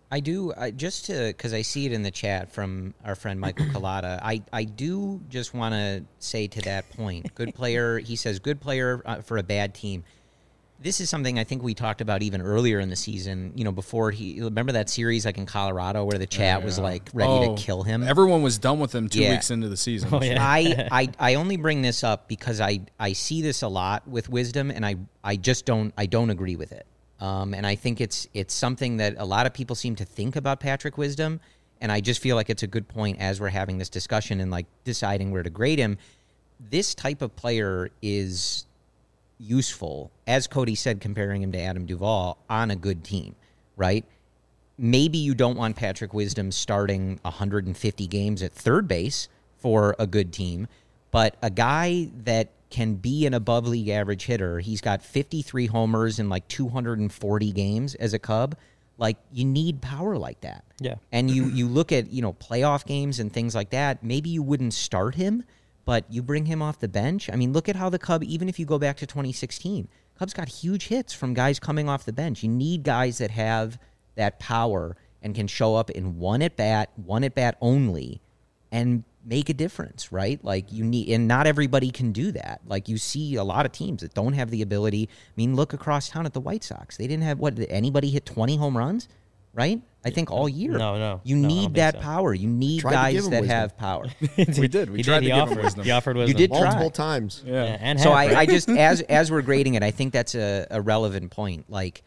I do, because I see it in the chat from our friend Michael Collada, I do just want to say to that point, good player, he says, good player for a bad team. This is something I think we talked about even earlier in the season, before remember that series like in Colorado where the chat was like ready to kill him? Everyone was done with him 2 weeks into the season. Oh, yeah. I only bring this up because I see this a lot with Wisdom, and I just don't agree with it. And I think it's something that a lot of people seem to think about Patrick Wisdom, and I just feel like it's a good point as we're having this discussion and like deciding where to grade him. This type of player is useful, as Cody said, comparing him to Adam Duvall on a good team, right? Maybe you don't want Patrick Wisdom starting 150 games at third base for a good team, but a guy that can be an above league average hitter. He's got 53 homers in like 240 games as a Cub. Like, you need power like that. Yeah. And you look at, playoff games and things like that. Maybe you wouldn't start him, but you bring him off the bench. I mean, look at how the Cub, even if you go back to 2016, Cubs got huge hits from guys coming off the bench. You need guys that have that power and can show up in one at bat only, and make a difference, right? Like, you need, and not everybody can do that. Like, you see a lot of teams that don't have the ability. I mean, look across town at the White Sox. They didn't have, did anybody hit 20 home runs, right? I think all year. No. You need that power. You need guys that have power. We did. We tried to give him wisdom. He offered wisdom. You did multiple times. Yeah. And so I just, as we're grading it, I think that's a relevant point. Like,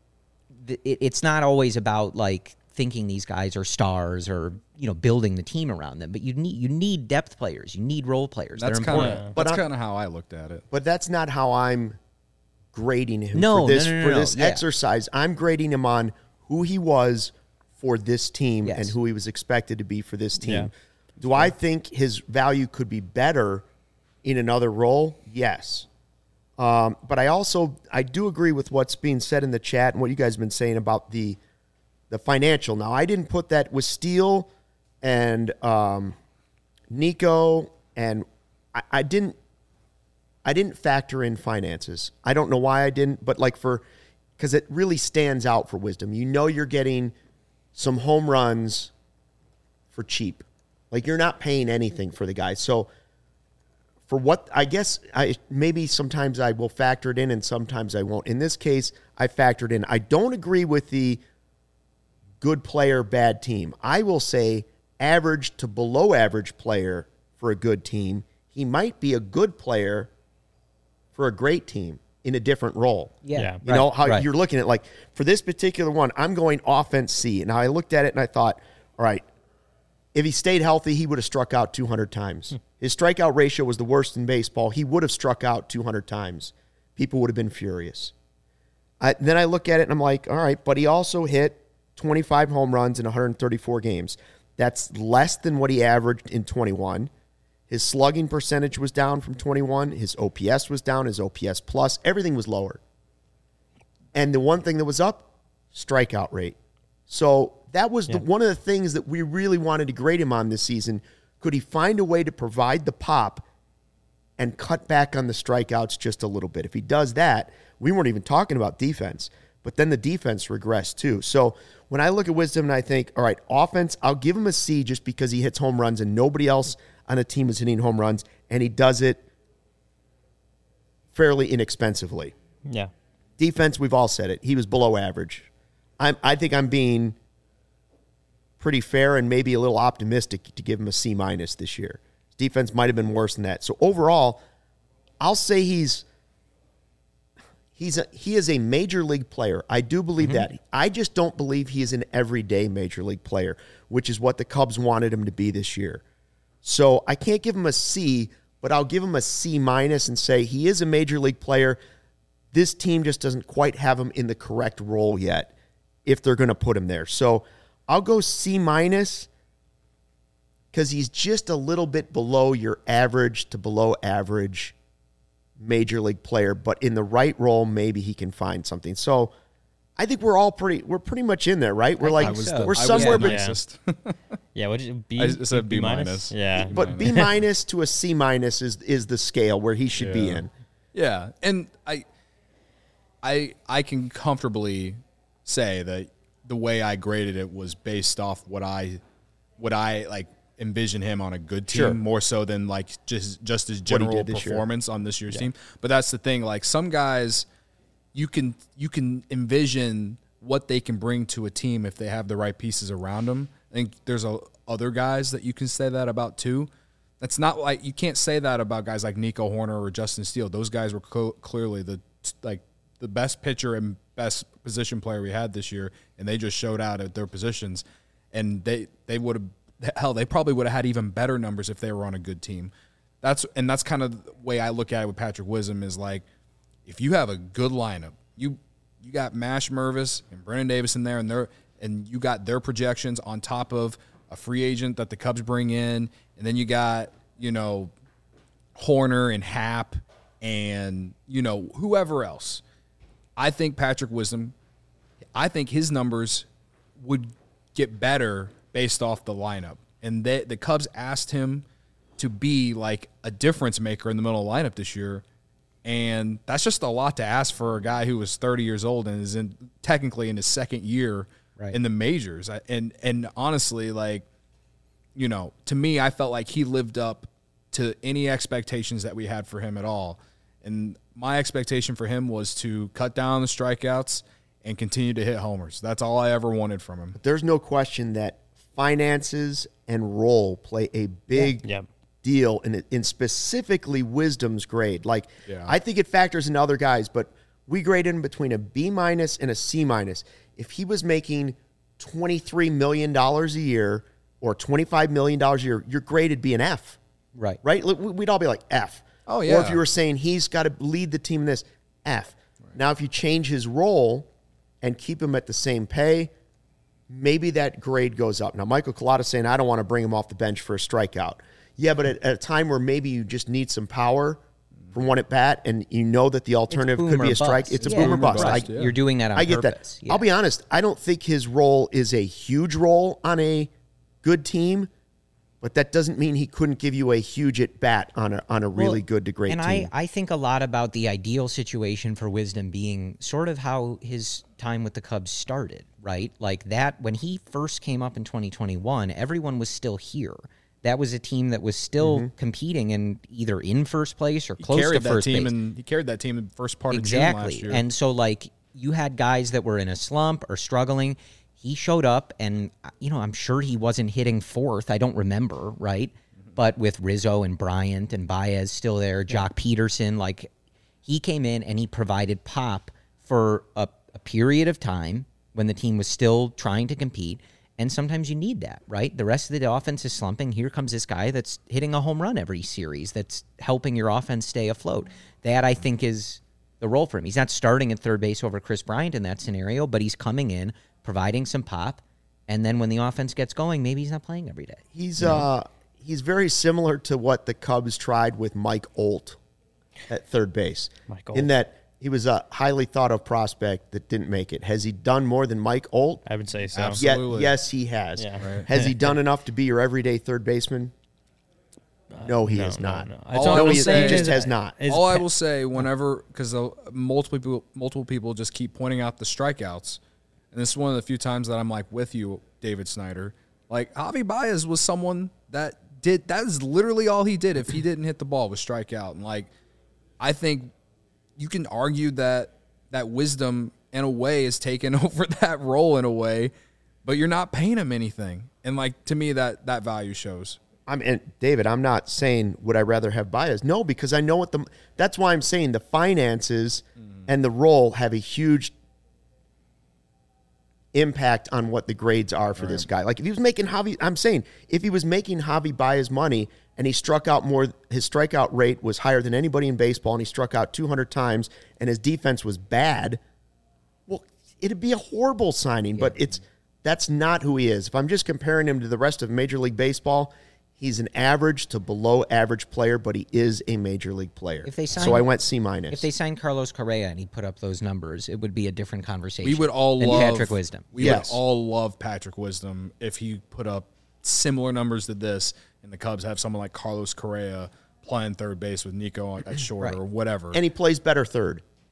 it's not always about like thinking these guys are stars or building the team around them, but you need depth players, you need role players. That's important. That's kind of how I looked at it. But that's not how I'm grading him for this exercise. I'm grading him on who he was for this team and who he was expected to be for this team. Yeah. Do I think his value could be better in another role? Yes. But I do agree with what's being said in the chat and what you guys have been saying about the financial. Now, I didn't put that with Steele and Nico, and I didn't factor in finances. I don't know why I didn't, but because it really stands out for Wisdom. You're getting some home runs for cheap. Like, you're not paying anything for the guy. So for what, I guess maybe sometimes I will factor it in and sometimes I won't. In this case, I factored in. I don't agree with the good player, bad team. I will say average to below average player for a good team. He might be a good player for a great team in a different role. Yeah. You know how you're looking at, like, for this particular one, I'm going offense C. And I looked at it and I thought, all right, if he stayed healthy, he would have struck out 200 times. His strikeout ratio was the worst in baseball. He would have struck out 200 times. People would have been furious. Then I look at it and I'm like, all right, but he also hit 25 home runs in 134 games. That's less than what he averaged in 21. His slugging percentage was down from 21. His OPS was down. His OPS plus. Everything was lower. And the one thing that was up, strikeout rate. So that was one of the things that we really wanted to grade him on this season. Could he find a way to provide the pop and cut back on the strikeouts just a little bit? If he does that, we weren't even talking about defense, but then the defense regressed too. So when I look at Wisdom and I think, all right, offense, I'll give him a C just because he hits home runs and nobody else on a team is hitting home runs, and he does it fairly inexpensively. Yeah. Defense, we've all said it. He was below average. I think I'm being pretty fair and maybe a little optimistic to give him a C- this year. His defense might have been worse than that. So overall, I'll say he is a major league player. I do believe that. I just don't believe he is an everyday major league player, which is what the Cubs wanted him to be this year. So I can't give him a C, but I'll give him a C- and say he is a major league player. This team just doesn't quite have him in the correct role yet if they're going to put him there. So I'll go C- because he's just a little bit below your average to below average major league player, but in the right role, maybe he can find something. So I think we're pretty much in there, right? We're like, we're somewhere. Yeah, what did you, B? I said B-. Yeah. But B- to a C- is the scale where he should be in. Yeah. And I can comfortably say that the way I graded it was based off what I like envision him on a good team more so than like just his general performance on this year's team. But that's the thing. Like some guys, you can envision what they can bring to a team if they have the right pieces around them. I think there's other guys that you can say that about too. That's not like you can't say that about guys like Nico Horner or Justin Steele. Those guys were clearly the best pitcher and best position player we had this year, and they just showed out at their positions. And they would have they probably would have had even better numbers if they were on a good team. That's kind of the way I look at it with Patrick Wisdom is like if you have a good lineup, you got Mash Mervis and Brennan Davis in there, and you got their projections on top of a free agent that the Cubs bring in, and then you got, Horner and Happ and, whoever else. I think Patrick Wisdom, I think his numbers would get better based off the lineup. And the Cubs asked him to be like a difference maker in the middle of the lineup this year. And that's just a lot to ask for a guy who was 30 years old and is technically in his second year in the majors. And honestly, to me, I felt like he lived up to any expectations that we had for him at all. And my expectation for him was to cut down the strikeouts and continue to hit homers. That's all I ever wanted from him. There's no question that finances and role play a big deal in specifically Wisdom's grade. I think it factors in other guys, but we grade him between a B- and a C-. If he was making $23 million a year or $25 million a year, your grade would be an F. Right? We'd all be like F. Oh, yeah. Or if you were saying he's got to lead the team in this, F. Right. Now, if you change his role and keep him at the same pay, maybe that grade goes up. Now, Michael Collada's saying, I don't want to bring him off the bench for a strikeout. Yeah, but at a time where maybe you just need some power from one at bat and you know that the alternative could be a strike, it's a boom or bust. You're doing that on purpose. I get that. Yeah. I'll be honest, I don't think his role is a huge role on a good team, but that doesn't mean he couldn't give you a huge at bat on a really good to great team. And I think a lot about the ideal situation for Wisdom being sort of how his time with the Cubs started, right? Like that, when he first came up in 2021, everyone was still here. That was a team that was still competing and either in first place or close to first base. He carried that team in the first part of June last year. And so, you had guys that were in a slump or struggling. He showed up, and, I'm sure he wasn't hitting fourth. I don't remember, right? But with Rizzo and Bryant and Baez still there, Jock Peterson, he came in and he provided pop for a period of time when the team was still trying to compete. And sometimes you need that, right? The rest of the offense is slumping. Here comes this guy that's hitting a home run every series that's helping your offense stay afloat. That, I think, is the role for him. He's not starting at third base over Chris Bryant in that scenario, but he's coming in, providing some pop, and then when the offense gets going, maybe he's not playing every day. He's very similar to what the Cubs tried with Mike Olt at third base. In that he was a highly thought of prospect that didn't make it. Has he done more than Mike Olt? I would say so. Absolutely. Yes, he has. Yeah. Right. Has he done enough to be your everyday third baseman? No, he has not. He just has not. All I will say, whenever, because multiple people just keep pointing out the strikeouts, and this is one of the few times that I'm with you, David Snyder. Javi Baez was someone that is literally all he did if he didn't hit the ball was strike out. And I think you can argue that Wisdom in a way is taking over that role in a way, but you're not paying him anything. And to me, that value shows. David, I'm not saying would I rather have Baez. No, because I know that's why I'm saying the finances and the role have a huge impact on what the grades are for this guy. If he was making if he was making Javi Baez money and he struck out more, his strikeout rate was higher than anybody in baseball, and he struck out 200 times, and his defense was bad, well, it'd be a horrible signing, but that's not who he is. If I'm just comparing him to the rest of Major League Baseball, he's an average to below average player, but he is a major league player. So I went C-. If they signed Carlos Correa and he put up those numbers, it would be a different conversation. We would all love Patrick Wisdom. We would all love Patrick Wisdom if he put up similar numbers to this, and the Cubs have someone like Carlos Correa playing third base with Nico at short or whatever. And he plays better third.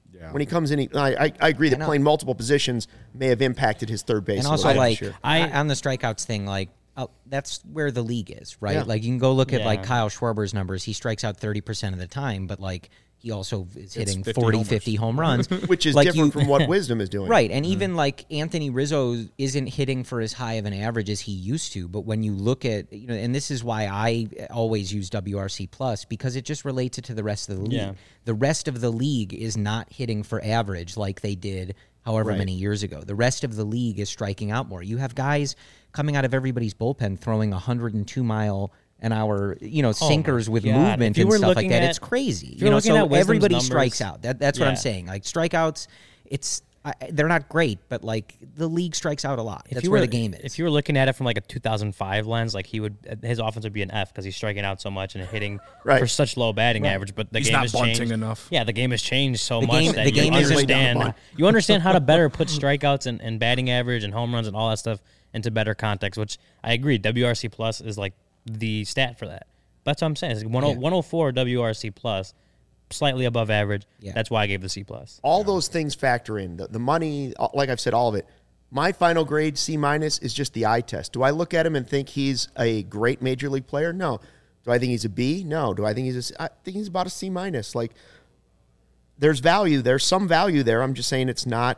Yeah. When he comes in, I agree that playing multiple positions may have impacted his third base. And also, like, on the strikeouts thing, like, that's where the league is, right? Yeah. Like, you can go look at, like, Kyle Schwarber's numbers. He strikes out 30% of the time, but, like, he also is hitting 50 home runs. Which is like different from what Wisdom is doing. Right, and even, like, Anthony Rizzo isn't hitting for as high of an average as he used to, but when you look at, and this is why I always use WRC Plus, because it just relates it to the rest of the league. Yeah. The rest of the league is not hitting for average like they did however many years ago. The rest of the league is striking out more. You have guys coming out of everybody's bullpen throwing 102-mile-an-hour, sinkers with movement and stuff like that. It's crazy. So everybody numbers, strikes out. That's what I'm saying. Like, strikeouts, they're not great, but, like, the league strikes out a lot. That's where the game is. If you were looking at it from, like, a 2005 lens, like, his offense would be an F because he's striking out so much and hitting for such low batting average. But he's game has changed enough. Yeah, the game has changed so much that you understand how to better put strikeouts and batting average and home runs and all that stuff into better context, which I agree. WRC Plus is, like, the stat for that. That's what I'm saying. It's 104 WRC Plus, slightly above average. Yeah. That's why I gave the C+. All those things factor in. The money, like I've said, all of it. My final grade, C- is just the eye test. Do I look at him and think he's a great major league player? No. Do I think he's a B? No. Do I think I think he's about a C-. Like, there's value. There's some value there. I'm just saying it's not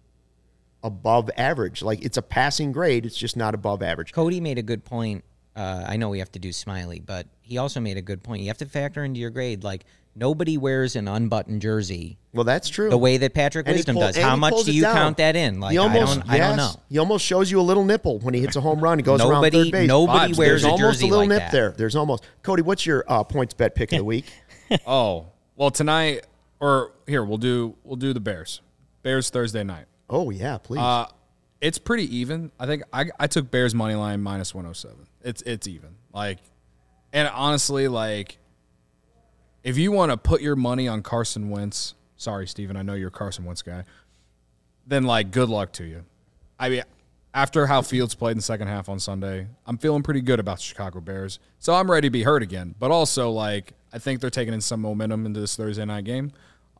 above average. Like, it's a passing grade. It's just not above average. Cody made a good point. I know we have to do Smiley, but he also made a good point. You have to factor into your grade, like, nobody wears an unbuttoned jersey. Well, that's true. The way that Patrick Wisdom does. How much do you count that in? Like, I don't know. He almost shows you a little nipple when he hits a home run. He goes around third base. Nobody wears a jersey almost a little like nip that. there. There's almost. Cody, what's your points bet pick of the week? Well, tonight, or here, we'll do the Bears. Bears Thursday night. Oh, yeah, please. It's pretty even. I think I took Bears money line minus 107. It's even. Like, and honestly, like, if you want to put your money on Carson Wentz, sorry, Steven, I know you're a Carson Wentz guy, then, like, good luck to you. I mean, after how Fields played in the second half on Sunday, I'm feeling pretty good about the Chicago Bears. So I'm ready to be hurt again. But also, like, I think they're taking in some momentum into this Thursday night game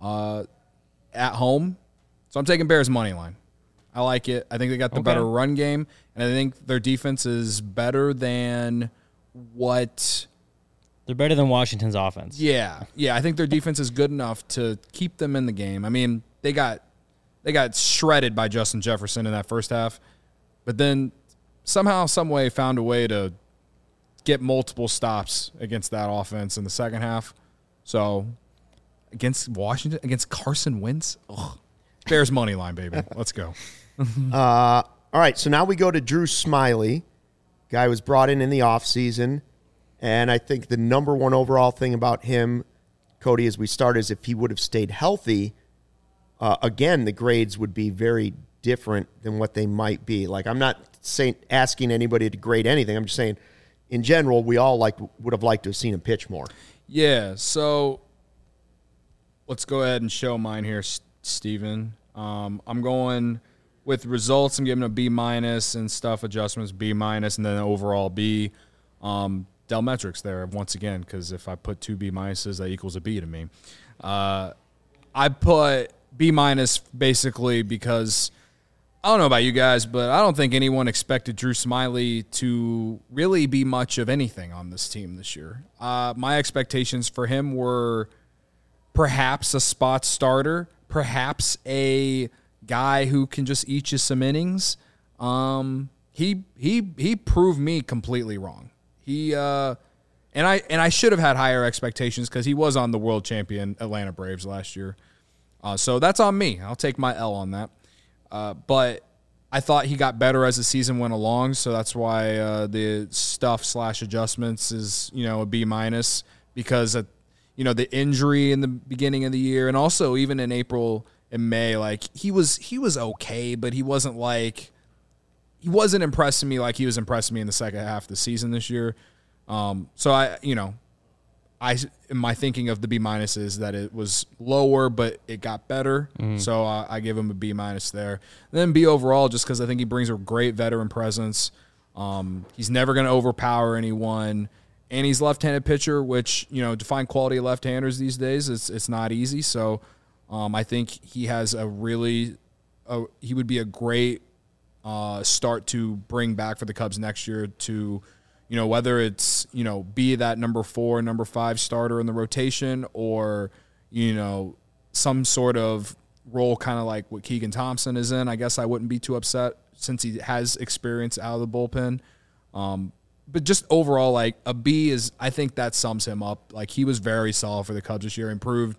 at home. So I'm taking Bears money line. I like it. I think they got the better run game, and I think their defense is better than what... They're better than Washington's offense. Yeah. I think their defense is good enough to keep them in the game. I mean, they got shredded by Justin Jefferson in that first half, but then somehow, some way, found a way to get multiple stops against that offense in the second half. So against Washington, against Carson Wentz, Bears money line, baby. Let's go. All right, so now we go to Drew Smiley. Guy was brought in the offseason. And I think the number one overall thing about him, Cody, as we start, is if he would have stayed healthy, again, the grades would be very different than what they might be. Like, I'm not asking anybody to grade anything. I'm just saying, in general, we all would have liked to have seen him pitch more. Yeah, so let's go ahead and show mine here, Steven. I'm going with results. I'm giving a B- and stuff adjustments, B-, and then overall B. Dell metrics there once again, because if I put 2 B-, that equals a B to me. I put B- basically because I don't know about you guys, but I don't think anyone expected Drew Smiley to really be much of anything on this team this year. My expectations for him were perhaps a spot starter, perhaps a guy who can just eat you some innings. He proved me completely wrong. He and I should have had higher expectations because he was on the world champion Atlanta Braves last year. So that's on me. I'll take my L on that. But I thought he got better as the season went along, so that's why the stuff/adjustments is, a B- because of, the injury in the beginning of the year, and also even in April and May, like he was okay, but he wasn't impressing me like he was impressing me in the second half of the season this year. So my thinking of the B- is that it was lower, but it got better. Mm-hmm. So I give him a B- there. And then B overall, just because I think he brings a great veteran presence. He's never going to overpower anyone, and he's left-handed pitcher, which, to find quality left-handers these days, it's not easy. So I think he has he would be a great start to bring back for the Cubs next year to, whether it's, be that number 4, number 5 starter in the rotation or, some sort of role kind of like what Keegan Thompson is in. I guess I wouldn't be too upset since he has experience out of the bullpen. But just overall, like a B I think that sums him up. Like he was very solid for the Cubs this year, improved,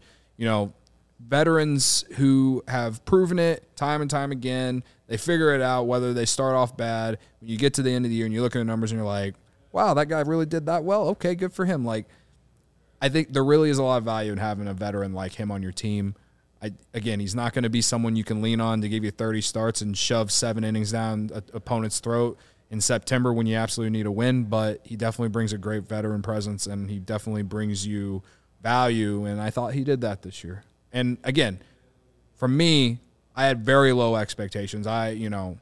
veterans who have proven it time and time again. They figure it out whether they start off bad. When you get to the end of the year and you look at the numbers and you're like, wow, that guy really did that well. Okay, good for him. Like, I think there really is a lot of value in having a veteran like him on your team. Again, he's not going to be someone you can lean on to give you 30 starts and shove 7 innings down an opponent's throat in September when you absolutely need a win, but he definitely brings a great veteran presence and he definitely brings you value, and I thought he did that this year. And again, for me, I had very low expectations. I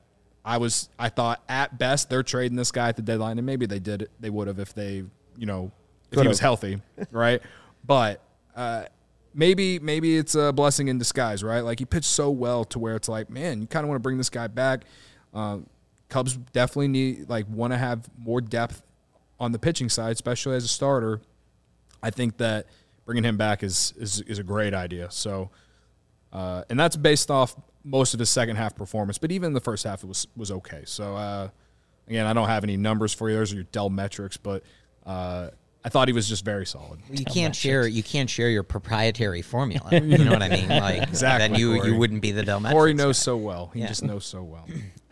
thought at best they're trading this guy at the deadline, and maybe they would have if they, if he was healthy, right? But maybe it's a blessing in disguise, right? Like he pitched so well to where it's like, man, you kind of want to bring this guy back. Cubs definitely want to have more depth on the pitching side, especially as a starter. I think that bringing him back is a great idea. So, and that's based off most of his second half performance, but even the first half it was okay. So, again, I don't have any numbers for you. Those are your Dell metrics, but I thought he was just very solid. You can't share your proprietary formula. You know what I mean? Like exactly. Then you wouldn't be the Dell metrics. Corey knows so well. He just knows so well.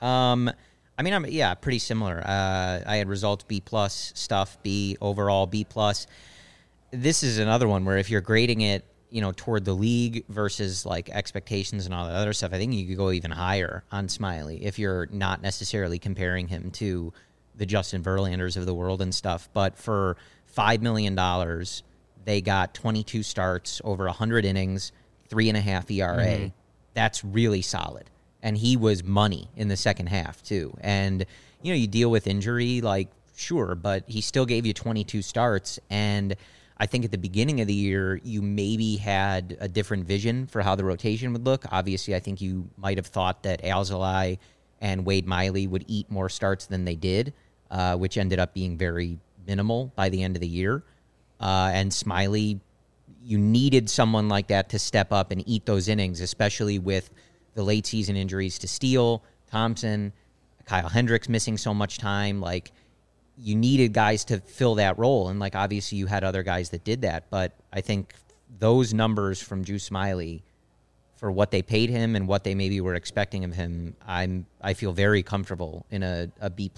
I'm pretty similar. I had results B+, stuff B, overall B+. This is another one where if you're grading it, toward the league versus like expectations and all that other stuff, I think you could go even higher on Smiley if you're not necessarily comparing him to the Justin Verlanders of the world and stuff. But for $5 million, they got 22 starts, over 100 innings, 3.5 ERA. Mm-hmm. That's really solid. And he was money in the second half, too. And, you deal with injury, like, sure, but he still gave you 22 starts. And I think at the beginning of the year, you maybe had a different vision for how the rotation would look. Obviously, I think you might have thought that Alzolay and Wade Miley would eat more starts than they did, which ended up being very minimal by the end of the year. And Smiley, you needed someone like that to step up and eat those innings, especially with the late season injuries to Steele, Thompson, Kyle Hendricks missing so much time. Like, you needed guys to fill that role. And, like, obviously you had other guys that did that. But I think those numbers from Drew Smiley for what they paid him and what they maybe were expecting of him, I feel very comfortable in a B+.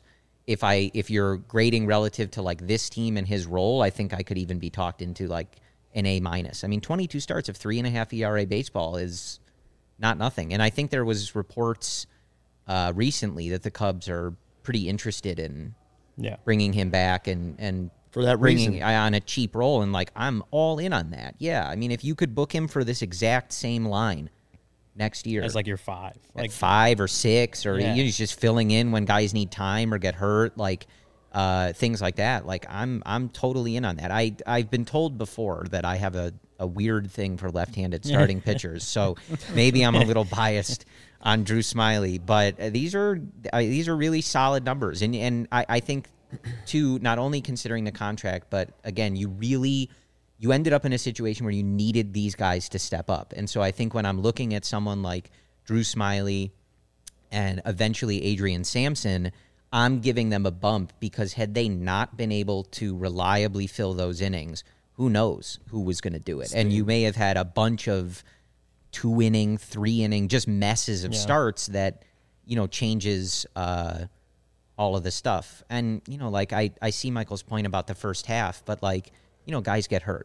If you're grading relative to, like, this team and his role, I think I could even be talked into, like, an A-. I mean, 22 starts of 3.5 ERA baseball is not nothing. And I think there was reports recently that the Cubs are pretty interested in bringing him back and for that bringing reason on a cheap role. And, like, I'm all in on that. Yeah, I mean, if you could book him for this exact same line next year. As, like, your 5. Like 5 or 6, or he's just filling in when guys need time or get hurt, like things like that. Like, I'm totally in on that. I've been told before that I have a weird thing for left-handed starting pitchers, so maybe I'm a little biased on Drew Smiley, but these are really solid numbers, and I think too, not only considering the contract, but again, you ended up in a situation where you needed these guys to step up, and so I think when I'm looking at someone like Drew Smiley and eventually Adrian Sampson, I'm giving them a bump because had they not been able to reliably fill those innings, who knows who was going to do it. And you may have had a bunch of 2-inning, 3-inning, just messes of starts that, changes all of the stuff. And, like I see Michael's point about the first half, but like, guys get hurt.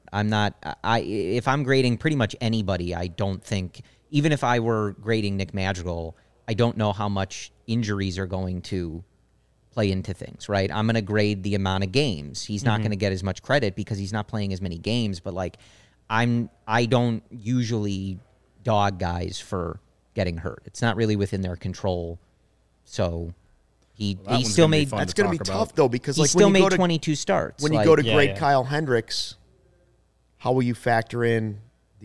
If I'm grading pretty much anybody, I don't think, even if I were grading Nick Madrigal, I don't know how much injuries are going to play into things, right? I'm going to grade the amount of games. He's not going to get as much credit because he's not playing as many games, but like I don't usually dog guys for getting hurt. It's not really within their control. So he still made that's going to be tough though, because he like still made 22 starts. When you go to great Kyle Hendricks, how will you factor in